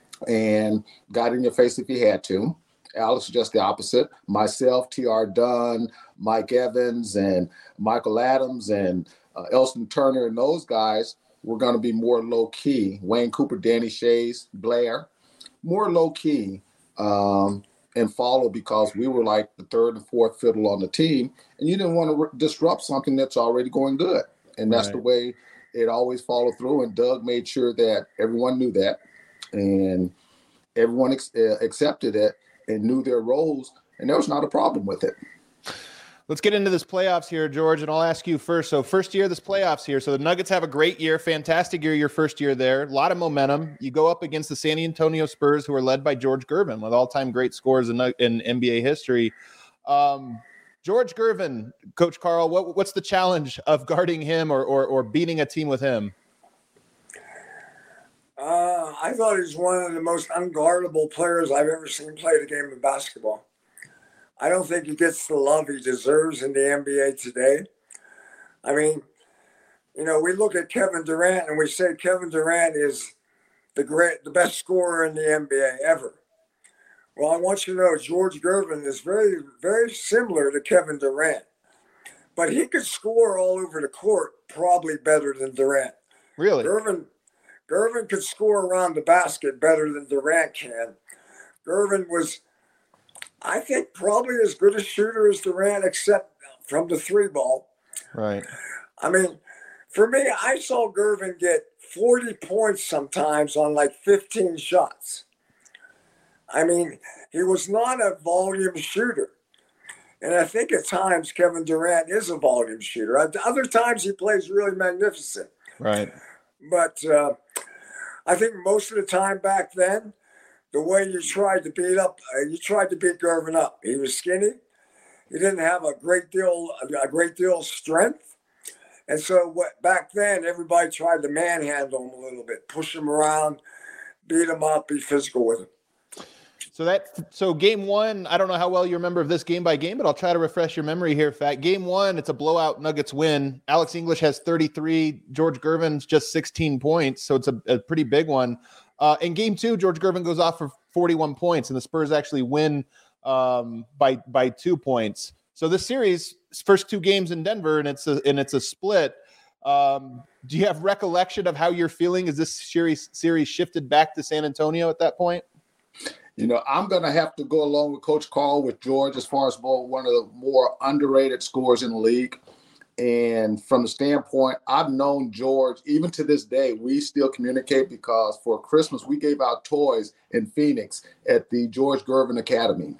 and got in your face if he had to. Alex was just the opposite. Myself, T R. Dunn, Mike Evans, and Michael Adams, and uh, Elston Turner, and those guys were going to be more low-key. Wayne Cooper, Danny Shays, Blair, more low-key. Um, and follow because we were like the third and fourth fiddle on the team, and you didn't want to re- disrupt something that's already going good. And that's right. the way it always followed through. And Doug made sure that everyone knew that, and everyone ex- uh, accepted it and knew their roles, and there was not a problem with it. Let's get into this playoffs here, George, and I'll ask you first. So first year of this playoffs here. So the Nuggets have a great year, fantastic year, your first year there. A lot of momentum. You go up against the San Antonio Spurs, who are led by George Gervin, with all-time great scores in, in N B A history. Um, George Gervin, Coach Carl, what, what's the challenge of guarding him or, or, or beating a team with him? Uh, I thought he was one of the most unguardable players I've ever seen play the game of basketball. I don't think he gets the love he deserves in the N B A today. I mean, you know, we look at Kevin Durant and we say Kevin Durant is the great, the best scorer in the N B A ever. Well, I want you to know George Gervin is very, very similar to Kevin Durant, but he could score all over the court probably better than Durant. Really? Gervin, Gervin could score around the basket better than Durant can. Gervin was, I think, probably as good a shooter as Durant, except from the three ball. Right. I mean, for me, I saw Gervin get forty points sometimes on like fifteen shots. I mean, he was not a volume shooter. And I think at times Kevin Durant is a volume shooter. At other times he plays really magnificent. Right. But uh, I think most of the time back then, the way you tried to beat up, uh, you tried to beat Gervin up. He was skinny. He didn't have a great deal, a great deal of strength. And so what, back then, everybody tried to manhandle him a little bit, push him around, beat him up, be physical with him. So that so game one, I don't know how well you remember of this game by game, but I'll try to refresh your memory here. Fat game one, it's a blowout Nuggets win. Alex English has thirty-three, George Gervin's just sixteen points, so it's a, a pretty big one. Uh, in game two, George Gervin goes off for forty-one points, and the Spurs actually win um, by by two points. So this series, first two games in Denver, and it's a and it's a split. Um, do you have recollection of how you're feeling? Is this series series shifted back to San Antonio at that point? You know, I'm going to have to go along with Coach Carl with George as far as more, one of the more underrated scorers in the league. And from the standpoint, I've known George, even to this day, we still communicate because for Christmas, we gave out toys in Phoenix at the George Gervin Academy.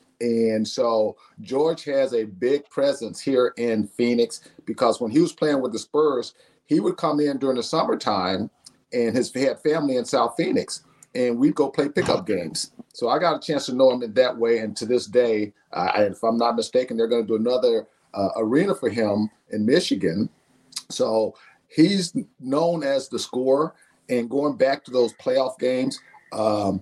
And so George has a big presence here in Phoenix because when he was playing with the Spurs, he would come in during the summertime and his he had family in South Phoenix. And we'd go play pickup games. So I got a chance to know him in that way. And to this day, uh, if I'm not mistaken, they're going to do another uh, arena for him in Michigan. So he's known as the scorer. And going back to those playoff games, um,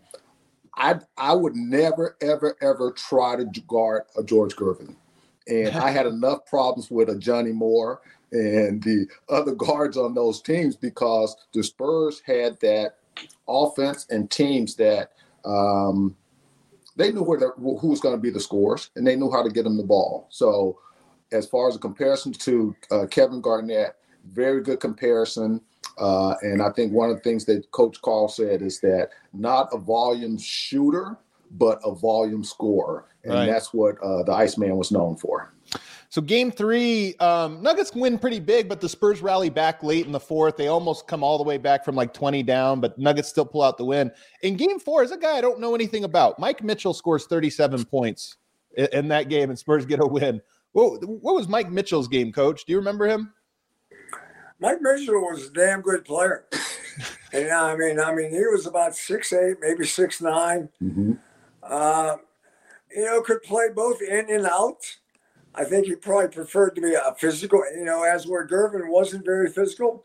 I I would never, ever, ever try to guard a George Gervin. And I had enough problems with a Johnny Moore and the other guards on those teams because the Spurs had that offense and teams that um, they knew where who was going to be the scorers and they knew how to get them the ball. So as far as a comparison to uh, Kevin Garnett, very good comparison. Uh, and I think one of the things that Coach Carl said is that not a volume shooter, but a volume scorer. And right. That's what uh, the Iceman was known for. So game three, um, Nuggets win pretty big, but the Spurs rally back late in the fourth. They almost come all the way back from like twenty down, but Nuggets still pull out the win. In game four is a guy I don't know anything about. Mike Mitchell scores thirty-seven points in, in that game, and Spurs get a win. What, what was Mike Mitchell's game, Coach? Do you remember him? Mike Mitchell was a damn good player. And I mean, I mean, he was about six eight, maybe six nine. Mm-hmm. Uh, you know, could play both in and out. I think he probably preferred to be a physical, you know, as where Gervin wasn't very physical.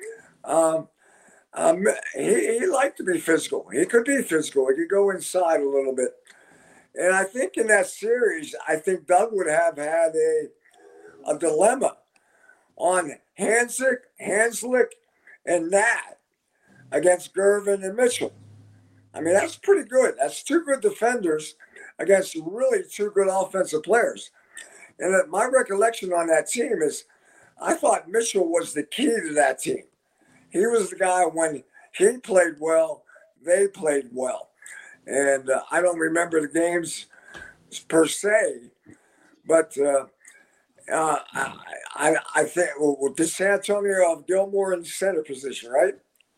Um, um, he, he liked to be physical. He could be physical. He could go inside a little bit. And I think in that series, I think Doug would have had a, a dilemma on Hanslick, Hanslick, and Nat against Gervin and Mitchell. I mean, that's pretty good. That's two good defenders against really two good offensive players. And my recollection on that team is I thought Mitchell was the key to that team. He was the guy when he played well, they played well. And uh, I don't remember the games per se, but uh, uh, I, I, I think well, did San Antonio have Gilmore in the center position, right?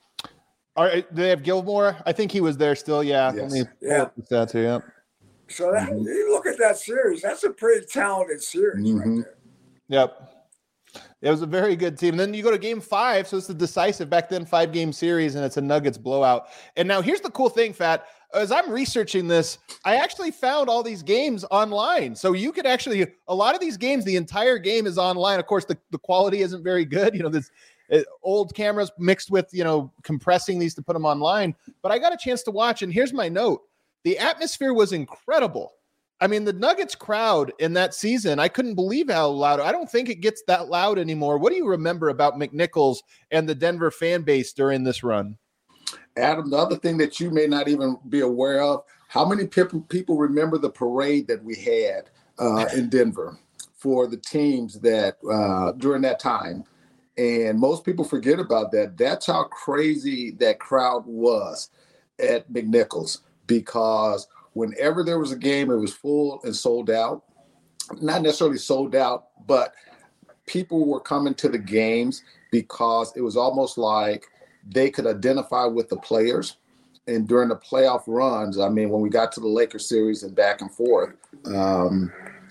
All right, do they have Gilmore? I think he was there still, yeah. Yes. Let me pull Yeah. up the stats here, yeah. So that, Mhm. you look at that series, that's a pretty talented series Mhm. right there. Yep. It was a very good team. And then you go to game five, so it's the decisive back then five-game series, and it's a Nuggets blowout. And now here's the cool thing, Fat. As I'm researching this, I actually found all these games online. So you could actually, a lot of these games, the entire game is online. Of course, the, the quality isn't very good. You know, this uh, old cameras mixed with, you know, compressing these to put them online. But I got a chance to watch, and here's my note. The atmosphere was incredible. I mean, the Nuggets crowd in that season, I couldn't believe how loud. I don't think it gets that loud anymore. What do you remember about McNichols and the Denver fan base during this run? Adam, the other thing that you may not even be aware of, how many people people remember the parade that we had uh, in Denver for the teams that uh, during that time? And most people forget about that. That's how crazy that crowd was at McNichols, because whenever there was a game, it was full and sold out. Not necessarily sold out, but people were coming to the games because it was almost like they could identify with the players. And during the playoff runs, I mean, when we got to the Lakers series and back and forth, um,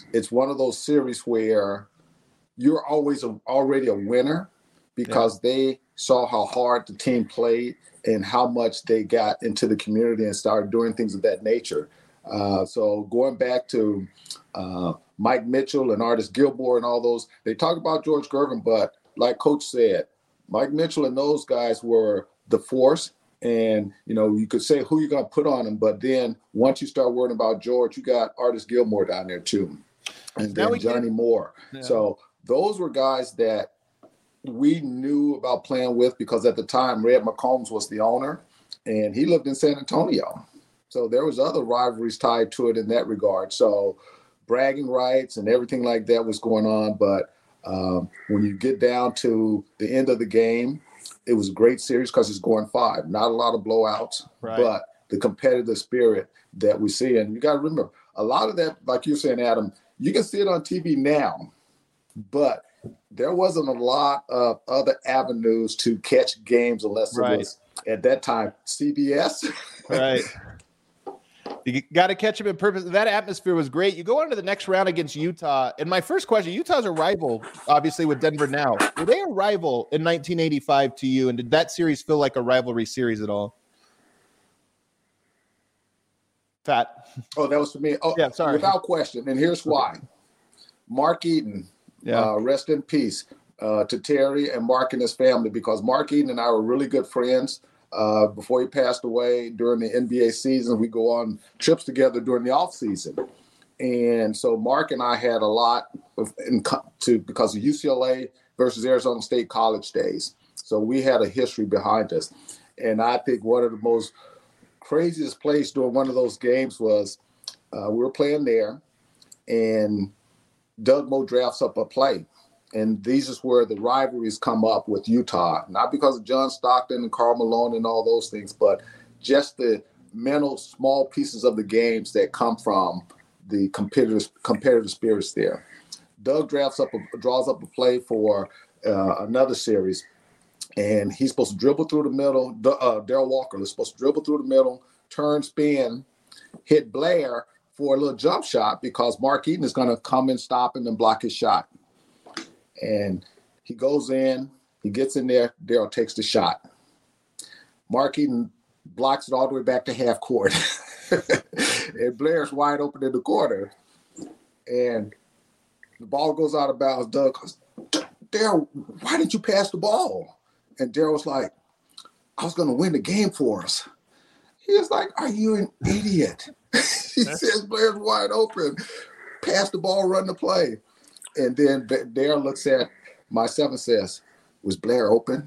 it's one of those series where you're always a, already a winner because yeah. they saw how hard the team played and how much they got into the community and started doing things of that nature. Uh, so going back to uh, Mike Mitchell and Artis Gilmore and all those, they talk about George Gervin, but like Coach said, Mike Mitchell and those guys were the force. And, you know, you could say who you're going to put on them, but then once you start worrying about George, you got Artis Gilmore down there too. And then Johnny can... Moore. Yeah. So those were guys that we knew about playing with because at the time, Red McCombs was the owner and he lived in San Antonio. So there was other rivalries tied to it in that regard. So bragging rights and everything like that was going on. But um, when you get down to the end of the game, it was a great series because it's going five. Not a lot of blowouts, right. but the competitive spirit that we see. And you got to remember, a lot of that, like you're saying, Adam, you can see it on T V now, but there wasn't a lot of other avenues to catch games unless right. it was, at that time, C B S. Right. You got to catch them in purpose. That atmosphere was great. You go on to the next round against Utah. And my first question, Utah's a rival, obviously, with Denver now. Were they a rival in nineteen eighty-five to you? And did that series feel like a rivalry series at all? Fat. Oh, that was for me. Oh, yeah, sorry. Without question. And here's why. Mark Eaton, yeah. uh, rest in peace uh, to Terry and Mark and his family, because Mark Eaton and I were really good friends. Uh, before he passed away during the N B A season, we go on trips together during the off season. And so Mark and I had a lot of in, to because of U C L A versus Arizona State college days. So we had a history behind us. And I think one of the most craziest plays during one of those games was uh, we were playing there and Doug Moe drafts up a play. And these is where the rivalries come up with Utah, not because of John Stockton and Karl Malone and all those things, but just the mental small pieces of the games that come from the competitive competitive spirits there. Doug drafts up, a, draws up a play for uh, another series, and he's supposed to dribble through the middle. Uh, Darrell Walker is supposed to dribble through the middle, turn, spin, hit Blair for a little jump shot because Mark Eaton is going to come and stop him and block his shot. And he goes in, he gets in there, Darrell takes the shot. Mark Eaton blocks it all the way back to half court. And Blair's wide open in the corner. And the ball goes out of bounds. Doug goes, Darrell, why didn't you pass the ball? And Darrell was like, I was going to win the game for us. He was like, are you an idiot? He says, Blair's wide open. Pass the ball, run the play. And then Darrell looks at myself and says, was Blair open?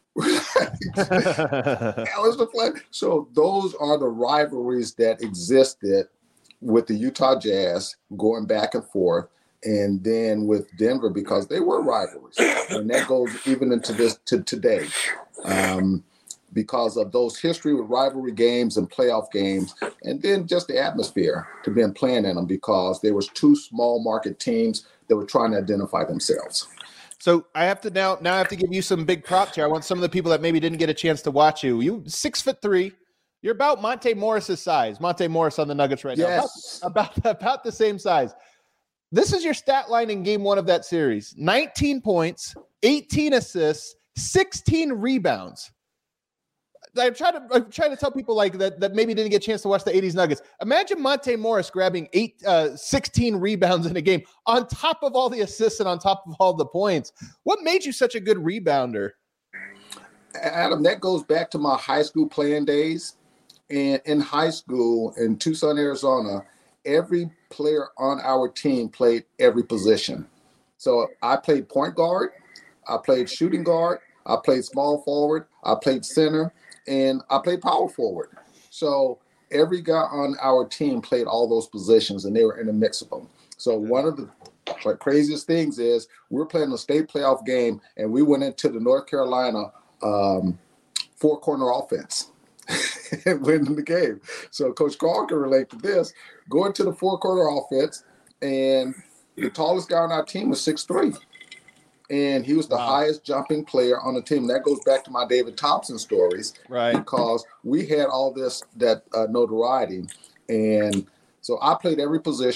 That was the play. So those are the rivalries that existed with the Utah Jazz going back and forth, and then with Denver because they were rivalries. And that goes even into this to today. Um, because of those history with rivalry games and playoff games, and then just the atmosphere to be playing in them because there was two small market teams that were trying to identify themselves. So I have to now, now I have to give you some big props here. I want some of the people that maybe didn't get a chance to watch you. You six foot three. You're about Monte Morris's size. Monte Morris on the Nuggets right yes. now. About, about, about the same size. This is your stat line in game one of that series. nineteen points, eighteen assists, sixteen rebounds. I'm trying to I'm trying to tell people like that that maybe didn't get a chance to watch the eighties Nuggets. Imagine Monte Morris grabbing eight, uh, sixteen rebounds in a game on top of all the assists and on top of all the points. What made you such a good rebounder? Adam, that goes back to my high school playing days. And in high school in Tucson, Arizona, every player on our team played every position. So I played point guard, I played shooting guard, I played small forward, I played center, and I played power forward. So every guy on our team played all those positions, and they were in a mix of them. So one of the like, craziest things is we were playing a state playoff game, and we went into the North Carolina um, four-corner offense and winning the game. So Coach Carl can relate to this. Going to the four-corner offense, and the tallest guy on our team was six three. And he was the wow. highest jumping player on the team. That goes back to my David Thompson stories, right? Because we had all this that uh, notoriety, and so I played every position.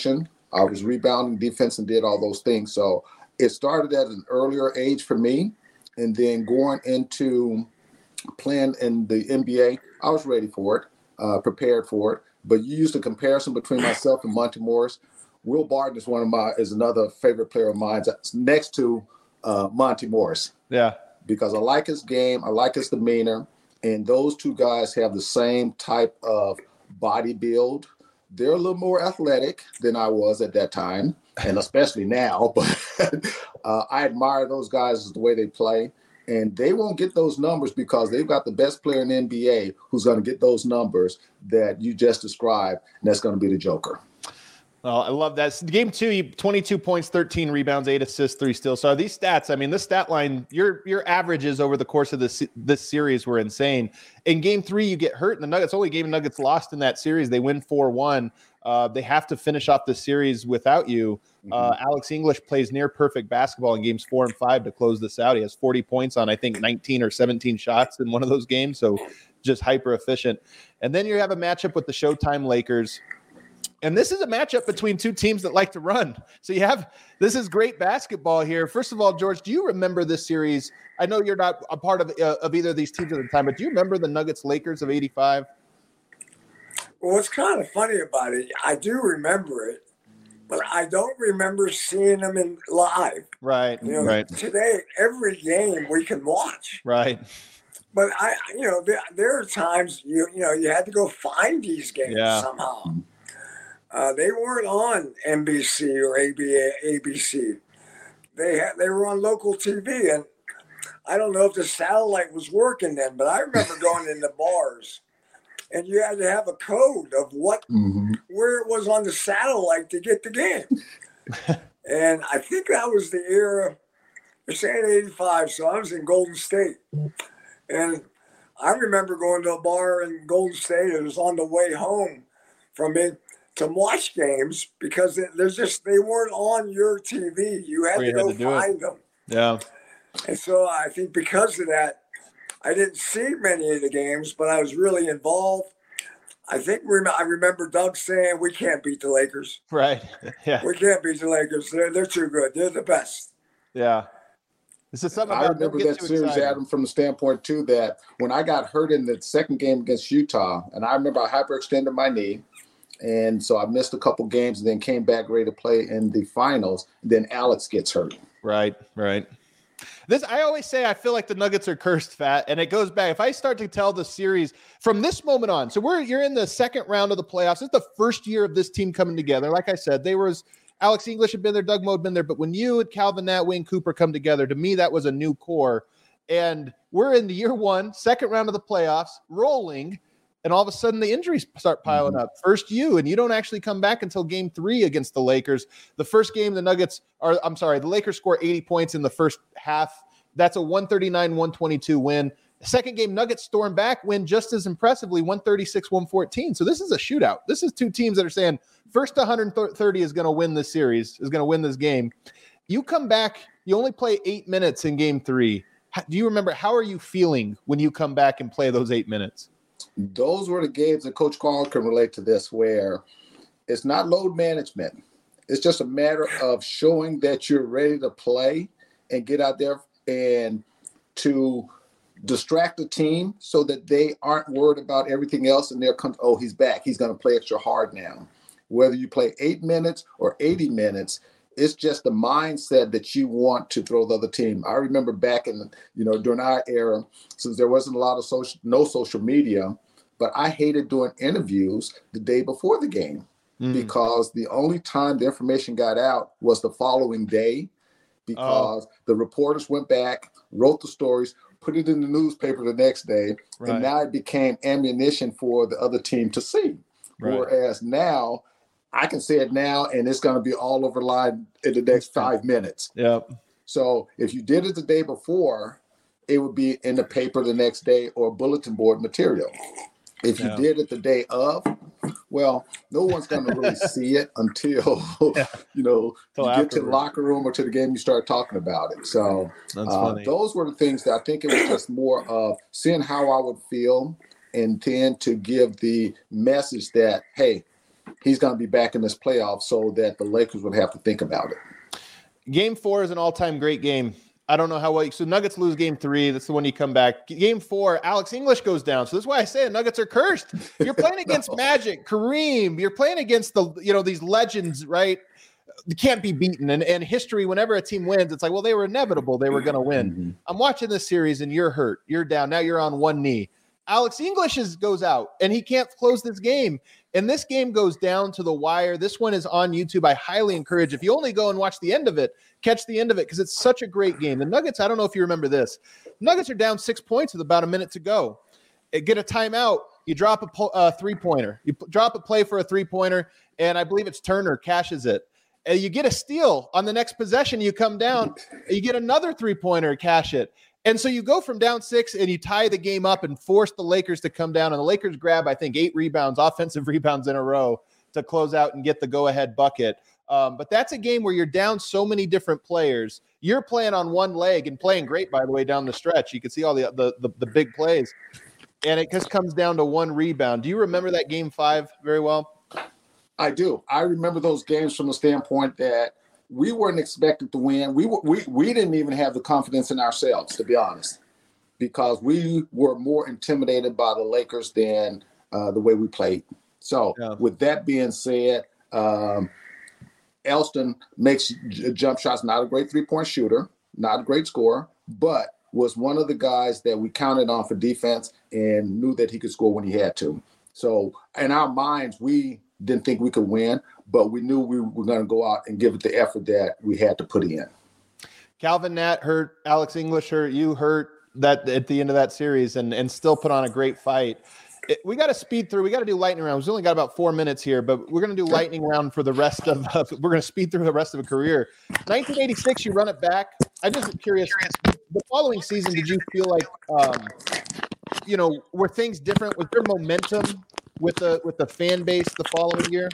I was rebounding defense and did all those things. So it started at an earlier age for me. And then going into playing in the N B A, I was ready for it, uh, prepared for it. But you used a comparison between myself and Monty Morris. Will Barton is one of my is another favorite player of mine. That's next to uh, Monty Morris. Yeah. Because I like his game, I like his demeanor, and those two guys have the same type of body build. They're a little more athletic than I was at that time, and especially now. But uh, I admire those guys the way they play, and they won't get those numbers because they've got the best player in the N B A who's going to get those numbers that you just described, and that's going to be the Joker. Well, I love that. Game two, you twenty-two points, thirteen rebounds, eight assists, three steals. So these stats, I mean, this stat line, your your averages over the course of this this series were insane. In game three, you get hurt, and the Nuggets only game Nuggets lost in that series. They win four one. Uh, they have to finish off the series without you. Uh, Alex English plays near perfect basketball in games four and five to close this out. He has forty points on, I think, nineteen or seventeen shots in one of those games. So just hyper efficient. And then you have a matchup with the Showtime Lakers. And this is a matchup between two teams that like to run. So you have – this is great basketball here. First of all, George, do you remember this series? I know you're not a part of uh, of either of these teams at the time, but do you remember the Nuggets-Lakers of eighty-five? Well, what's kind of funny about it, I do remember it, but I don't remember seeing them in live. Right, you know, right. Today, every game we can watch. Right. But, I, you know, there, there are times, you you know, you had to go find these games yeah. somehow. Uh, they weren't on N B C or A B C. They had, they were on local T V, and I don't know if the satellite was working then, but I remember going into bars, and you had to have a code of what mm-hmm. where it was on the satellite to get the game. And I think that was the era. They're saying eighty-five, so I was in Golden State, and I remember going to a bar in Golden State. It was on the way home from it. To watch games because there's just they weren't on your T V. You had to go find them. Yeah. And so I think because of that, I didn't see many of the games, but I was really involved. I think I remember Doug saying, "We can't beat the Lakers." Right. Yeah. We can't beat the Lakers. They're they're too good. They're the best. Yeah. This is something I remember that series, excited. Adam, from the standpoint too that when I got hurt in the second game against Utah, and I remember I hyperextended my knee. And so I missed a couple games and then came back ready to play in the finals. Then Alex gets hurt. Right, right. This I always say I feel like the Nuggets are cursed, Fat, and it goes back. If I start to tell the series from this moment on, so we're you're in the second round of the playoffs. It's the first year of this team coming together. Like I said, they was Alex English had been there, Doug Moe had been there, but when you and Calvin Nat, Wayne Cooper come together, to me that was a new core. And we're in the year one, second round of the playoffs, rolling. And all of a sudden the injuries start piling mm-hmm. up. First you, and you don't actually come back until game three against the Lakers. The first game, the Nuggets are, I'm sorry, the Lakers score eighty points in the first half. That's a one thirty-nine one twenty-two win. The second game, Nuggets storm back, win just as impressively, one thirty-six one fourteen. So this is a shootout. This is two teams that are saying first to one thirty is going to win this series, is going to win this game. You come back, you only play eight minutes in game three. How, do you remember, how are you feeling when you come back and play those eight minutes? Those were the games that Coach Carl can relate to this, where it's not load management. It's just a matter of showing that you're ready to play and get out there and to distract the team so that they aren't worried about everything else. And they're, oh, he's back. He's going to play extra hard now. Whether you play eight minutes or eighty minutes, it's just the mindset that you want to throw the other team. I remember back in, you know, during our era, since there wasn't a lot of social, no social media, but I hated doing interviews the day before the game mm. because the only time the information got out was the following day because oh. the reporters went back, wrote the stories, put it in the newspaper the next day, right. and now it became ammunition for the other team to see. Right. Whereas now, I can say it now, and it's going to be all over the line in the next five minutes. Yep. So if you did it the day before, it would be in the paper the next day or bulletin board material. If you yeah. did it the day of, well, no one's going to really see it until, yeah. you know, until you get to the locker room or to the game, you start talking about it. So uh, those were the things that I think it was just more of seeing how I would feel and then to give the message that, hey, he's going to be back in this playoff so that the Lakers would have to think about it. Game four is an all-time great game. I don't know how well. So Nuggets lose game three. That's the one you come back. Game four, Alex English goes down. So that's why I say the Nuggets are cursed. You're playing against Magic, Kareem. You're playing against the, you know, these legends, right? You can't be beaten. And, and history, whenever a team wins, it's like, well, they were inevitable. They were going to win. Mm-hmm. I'm watching this series and you're hurt. You're down. Now you're on one knee. Alex English is, goes out and he can't close this game. And this game goes down to the wire. This one is on YouTube. I highly encourage, if you only go and watch the end of it, catch the end of it because it's such a great game. The Nuggets, I don't know if you remember this. Nuggets are down six points with about a minute to go. Get a timeout. You drop a uh, three-pointer. You p- drop a play for a three-pointer, and I believe it's Turner cashes it. And you get a steal on the next possession. You come down. You get another three-pointer, cash it. And so you go from down six and you tie the game up and force the Lakers to come down. And the Lakers grab, I think, eight rebounds, offensive rebounds in a row to close out and get the go-ahead bucket. Um, but that's a game where you're down so many different players. You're playing on one leg and playing great, by the way, down the stretch. You can see all the the, the, the big plays. And it just comes down to one rebound. Do you remember that game five very well? I do. I remember those games from the standpoint that we weren't expected to win. We we we didn't even have the confidence in ourselves, to be honest, because we were more intimidated by the Lakers than uh, the way we played. So yeah. With that being said, um, Elston makes j- jump shots, not a great three-point shooter, not a great scorer, but was one of the guys that we counted on for defense and knew that he could score when he had to. So in our minds, we didn't think we could win, but we knew we were going to go out and give it the effort that we had to put in. Calvin Nat hurt, Alex English hurt, you hurt that at the end of that series and, and still put on a great fight. It, we got to speed through. We got to do lightning round. We've only got about four minutes here, but we're going to do lightning round for the rest of uh, – we're going to speed through the rest of a career. nineteen eighty-six, you run it back. I'm just curious, the following season, did you feel like, um, you know, were things different? Was there momentum with the with the fan base the following year?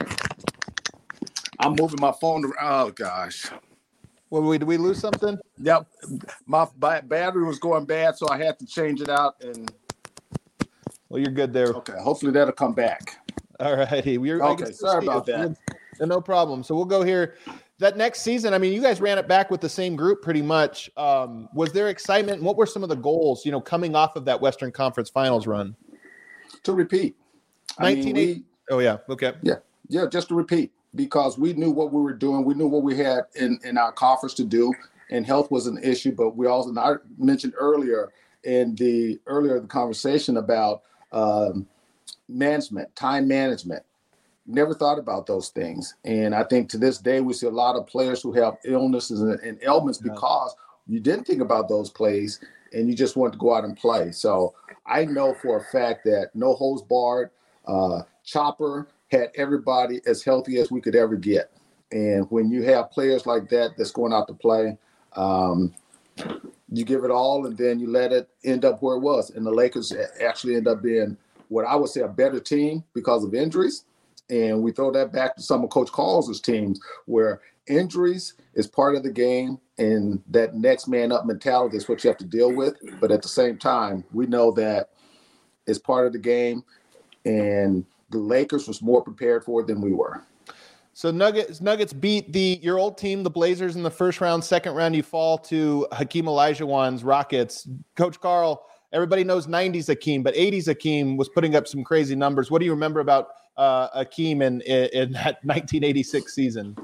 I'm moving my phone around. Oh, gosh. Well, we, did we lose something? Yep. My ba- battery was going bad, so I had to change it out. And Well, you're good there. Okay. Hopefully that'll come back. All righty. We're, okay. Sorry about that. No problem. So we'll go here. That next season, I mean, you guys ran it back with the same group pretty much. Um, was there excitement? What were some of the goals, you know, coming off of that Western Conference Finals run? To repeat. nineteen eighty Oh, yeah. Okay. Yeah. Yeah, just to repeat, because we knew what we were doing. We knew what we had in, in our conference to do, and health was an issue. But we also, and I mentioned earlier in the earlier the conversation about um, management, time management. Never thought about those things. And I think to this day, we see a lot of players who have illnesses and, and ailments yeah. because you didn't think about those plays and you just wanted to go out and play. So I know for a fact that no holds barred, uh, Chopper had everybody as healthy as we could ever get. And when you have players like that that's going out to play, um, you give it all and then you let it end up where it was. And the Lakers actually end up being what I would say a better team because of injuries. And we throw that back to some of Coach Carl's teams where injuries is part of the game and that next man up mentality is what you have to deal with. But at the same time, we know that it's part of the game and the Lakers was more prepared for it than we were. So Nuggets Nuggets beat the your old team, the Blazers, in the first round. Second round, you fall to Hakeem Olajuwon's Rockets. Coach Carl, everybody knows nineties Hakeem, but eighties Hakeem was putting up some crazy numbers. What do you remember about uh, Hakeem in, in, in that nineteen eighty-six season?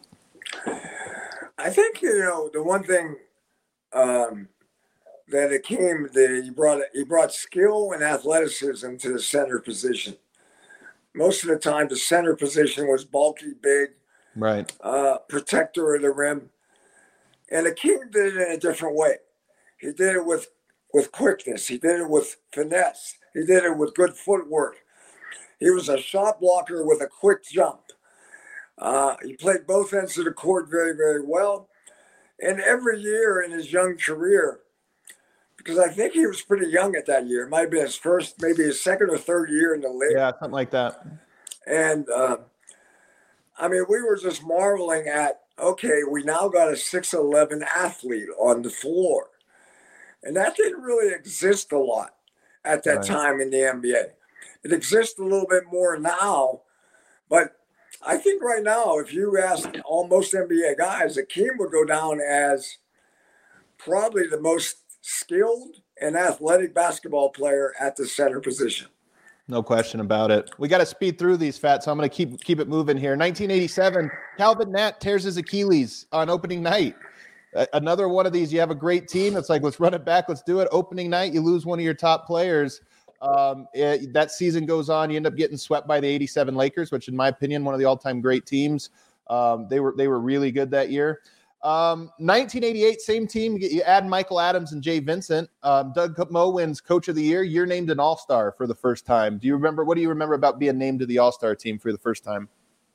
I think, you know, the one thing um, that Hakeem did, he brought, he brought skill and athleticism to the center position. Most of the time, the center position was bulky, big, right, uh, protector of the rim. And Hakeem did it in a different way. He did it with, with quickness. He did it with finesse. He did it with good footwork. He was a shot blocker with a quick jump. Uh, he played both ends of the court very, very well. And every year in his young career, because I think he was pretty young at that year. It might have been his first, maybe his second or third year in the league. Yeah, something like that. And, uh, I mean, we were just marveling at, okay, we now got a six eleven athlete on the floor. And that didn't really exist a lot at that right. time in the N B A. It exists a little bit more now, but I think right now, if you ask almost N B A guys, Akeem would go down as probably the most skilled and athletic basketball player at the center position. No question about it. We got to speed through these, Fat, so I'm going to keep keep it moving here. nineteen eighty-seven, Calvin Nat tears his Achilles on opening night. Uh, another one of these, you have a great team. It's like, let's run it back. Let's do it. Opening night, you lose one of your top players. Um, it, that season goes on. You end up getting swept by the eighty-seven Lakers, which in my opinion, one of the all-time great teams. Um, they were they were really good that year. Um, nineteen eighty-eight, same team. You, get, you add Michael Adams and Jay Vincent. Um, Doug Moe wins Coach of the Year. You're named an All-Star for the first time. Do you remember? What do you remember about being named to the All-Star team for the first time?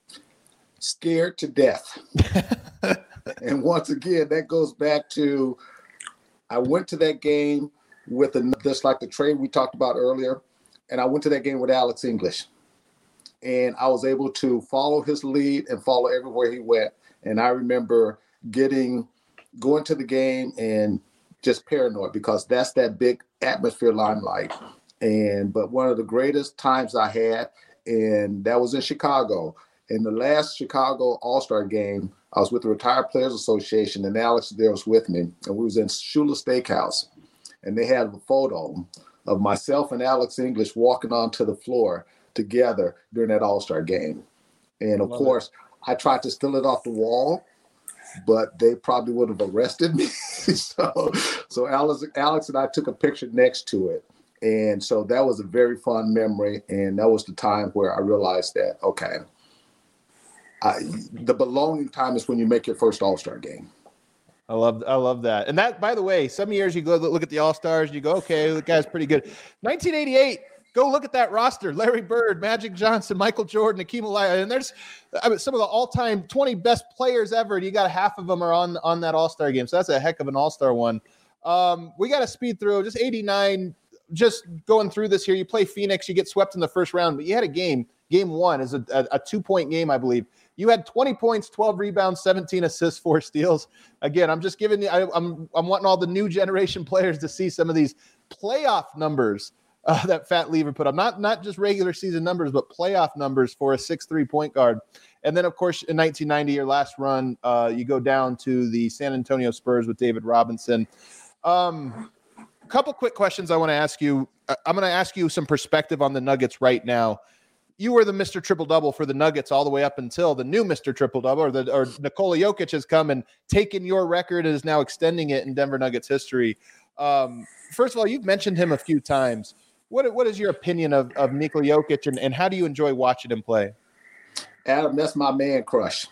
Scared to death. And once again, that goes back to I went to that game with a, just like the trade we talked about earlier, and I went to that game with Alex English, and I was able to follow his lead and follow everywhere he went. And I remember getting going to the game and just paranoid because that's that big atmosphere limelight. And but one of the greatest times I had, and that was in Chicago. In the last Chicago All-Star game, I was with the Retired Players Association, and Alex there was with me, and we was in Shula Steakhouse, and they had a photo of myself and Alex English walking onto the floor together during that All-Star game. And of course, it. I tried to steal it off the wall, but they probably would have arrested me. so, so Alex, Alex and I took a picture next to it. And so that was a very fun memory. And that was the time where I realized that, okay, I, the belonging time is when you make your first All-Star game. I love I love that. And that, by the way, some years you go look at the All-Stars, you go, okay, the guy's pretty good. nineteen eighty-eight, go look at that roster. Larry Bird, Magic Johnson, Michael Jordan, Hakeem Olajuwon. And there's I mean, some of the all-time twenty best players ever. And you got half of them are on, on that All-Star game. So that's a heck of an All-Star one. Um, we got to speed through. Just eighty-nine, just going through this here. You play Phoenix, you get swept in the first round. But you had a game. Game one is a, a, a two-point game, I believe. You had twenty points, twelve rebounds, seventeen assists, four steals. Again, I'm just giving you, I, I'm I'm wanting all the new generation players to see some of these playoff numbers uh, that Fat Lever put up. Not, not just regular season numbers, but playoff numbers for a six three point guard. And then, of course, in nineteen ninety, your last run, uh, you go down to the San Antonio Spurs with David Robinson. Um, a couple quick questions I want to ask you. I'm going to ask you some perspective on the Nuggets right now. You were the Mister Triple-Double for the Nuggets all the way up until the new Mister Triple-Double, or the or Nikola Jokic has come and taken your record and is now extending it in Denver Nuggets history. Um, first of all, you've mentioned him a few times. What what is your opinion of, of Nikola Jokic, and, and how do you enjoy watching him play? Adam, that's my man crush.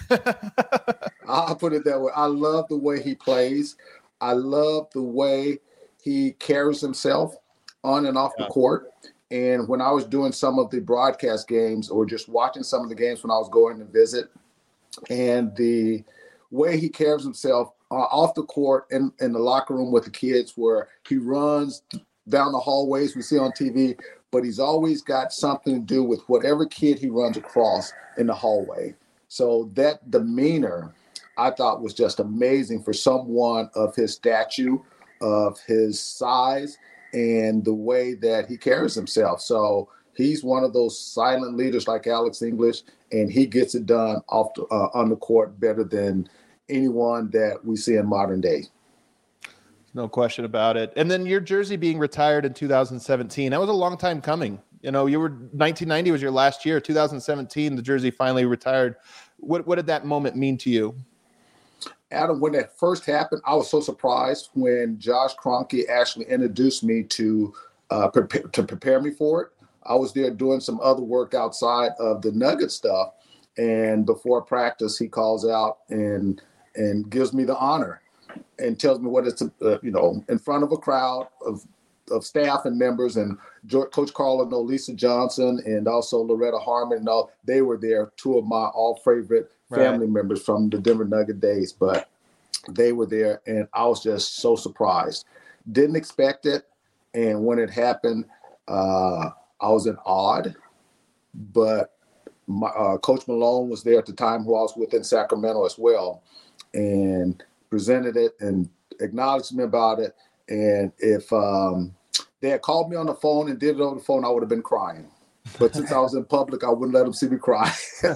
I'll put it that way. I love the way he plays. I love the way he carries himself on and off yeah. the court. And when I was doing some of the broadcast games or just watching some of the games when I was going to visit, and the way he carries himself uh, off the court and in, in the locker room with the kids, where he runs down the hallways we see on T V, but he's always got something to do with whatever kid he runs across in the hallway. So that demeanor, I thought, was just amazing for someone of his stature, of his size, and the way that he carries himself. So he's one of those silent leaders like Alex English, and he gets it done off the, uh, on the court better than anyone that we see in modern day. No question about it. And then your jersey being retired in two thousand seventeen, that was a long time coming. You know, you were nineteen ninety was your last year. two thousand seventeen, the jersey finally retired. What what did that moment mean to you? Adam, when that first happened, I was so surprised when Josh Kroenke actually introduced me to uh, prepare, to prepare me for it. I was there doing some other work outside of the Nugget stuff, and before practice, he calls out and and gives me the honor and tells me what it's uh, you know in front of a crowd of of staff and members, and George, Coach Carl and Lisa Johnson, and also Loretta Harmon. And all they were there, two of my all favorite family right. members from the Denver Nugget days, but they were there, and I was just so surprised. Didn't expect it, and when it happened, uh, I was in awe. But my, uh, Coach Malone was there at the time, who I was with in Sacramento as well, and presented it and acknowledged me about it. And if um, they had called me on the phone and did it over the phone, I would have been crying. But since I was in public, I wouldn't let them see me cry.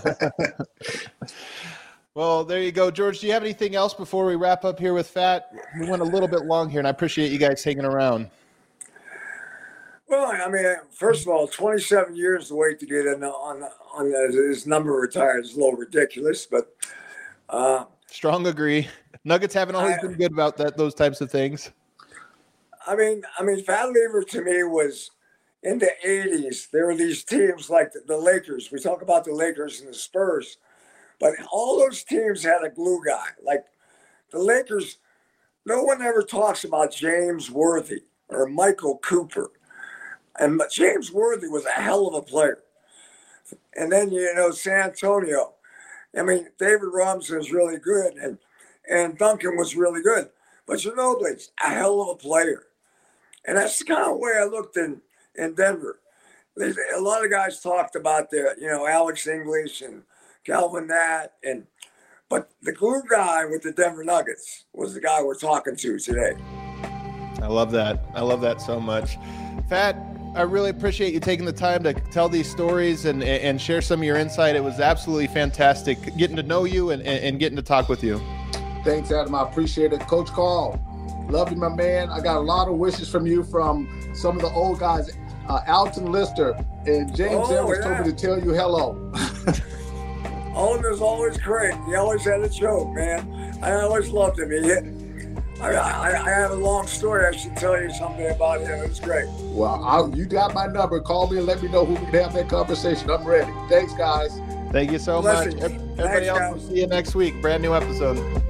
Well, there you go. George, do you have anything else before we wrap up here with Fat? We went a little bit long here, and I appreciate you guys hanging around. Well, I mean, first of all, twenty-seven years to wait to get in on on his number retired is a little ridiculous, but uh, strong agree. Nuggets haven't always I, been good about that; those types of things. I mean, I mean, Fat Lever to me was in the eighties. There were these teams like the, the Lakers. We talk about the Lakers and the Spurs, but all those teams had a glue guy. Like the Lakers, no one ever talks about James Worthy or Michael Cooper. And James Worthy was a hell of a player. And then, you know, San Antonio. I mean, David Robinson is really good, and, and Duncan was really good. But Ginobili's a hell of a player. And that's the kind of way I looked in, in Denver. There's, a lot of guys talked about the, you know, Alex English and Calvin Nat. And, but the glue guy with the Denver Nuggets was the guy we're talking to today. I love that. I love that so much. Fat, I really appreciate you taking the time to tell these stories and, and share some of your insight. It was absolutely fantastic getting to know you and, and getting to talk with you. Thanks, Adam. I appreciate it. Coach Carl, love you, my man. I got a lot of wishes from you from some of the old guys. Uh, Alton Lister and James oh, Evans yeah. told me to tell you hello. Alton was always great. He always had a joke, man. I always loved him. He hit I, I, I have a long story. I should tell you something about him. It was great. Well, I'll, you got my number. Call me and let me know who we can have that conversation. I'm ready. Thanks, guys. Thank you so Blessings. much. Everybody Thanks, else, guys. we'll see you next week. Brand new episode.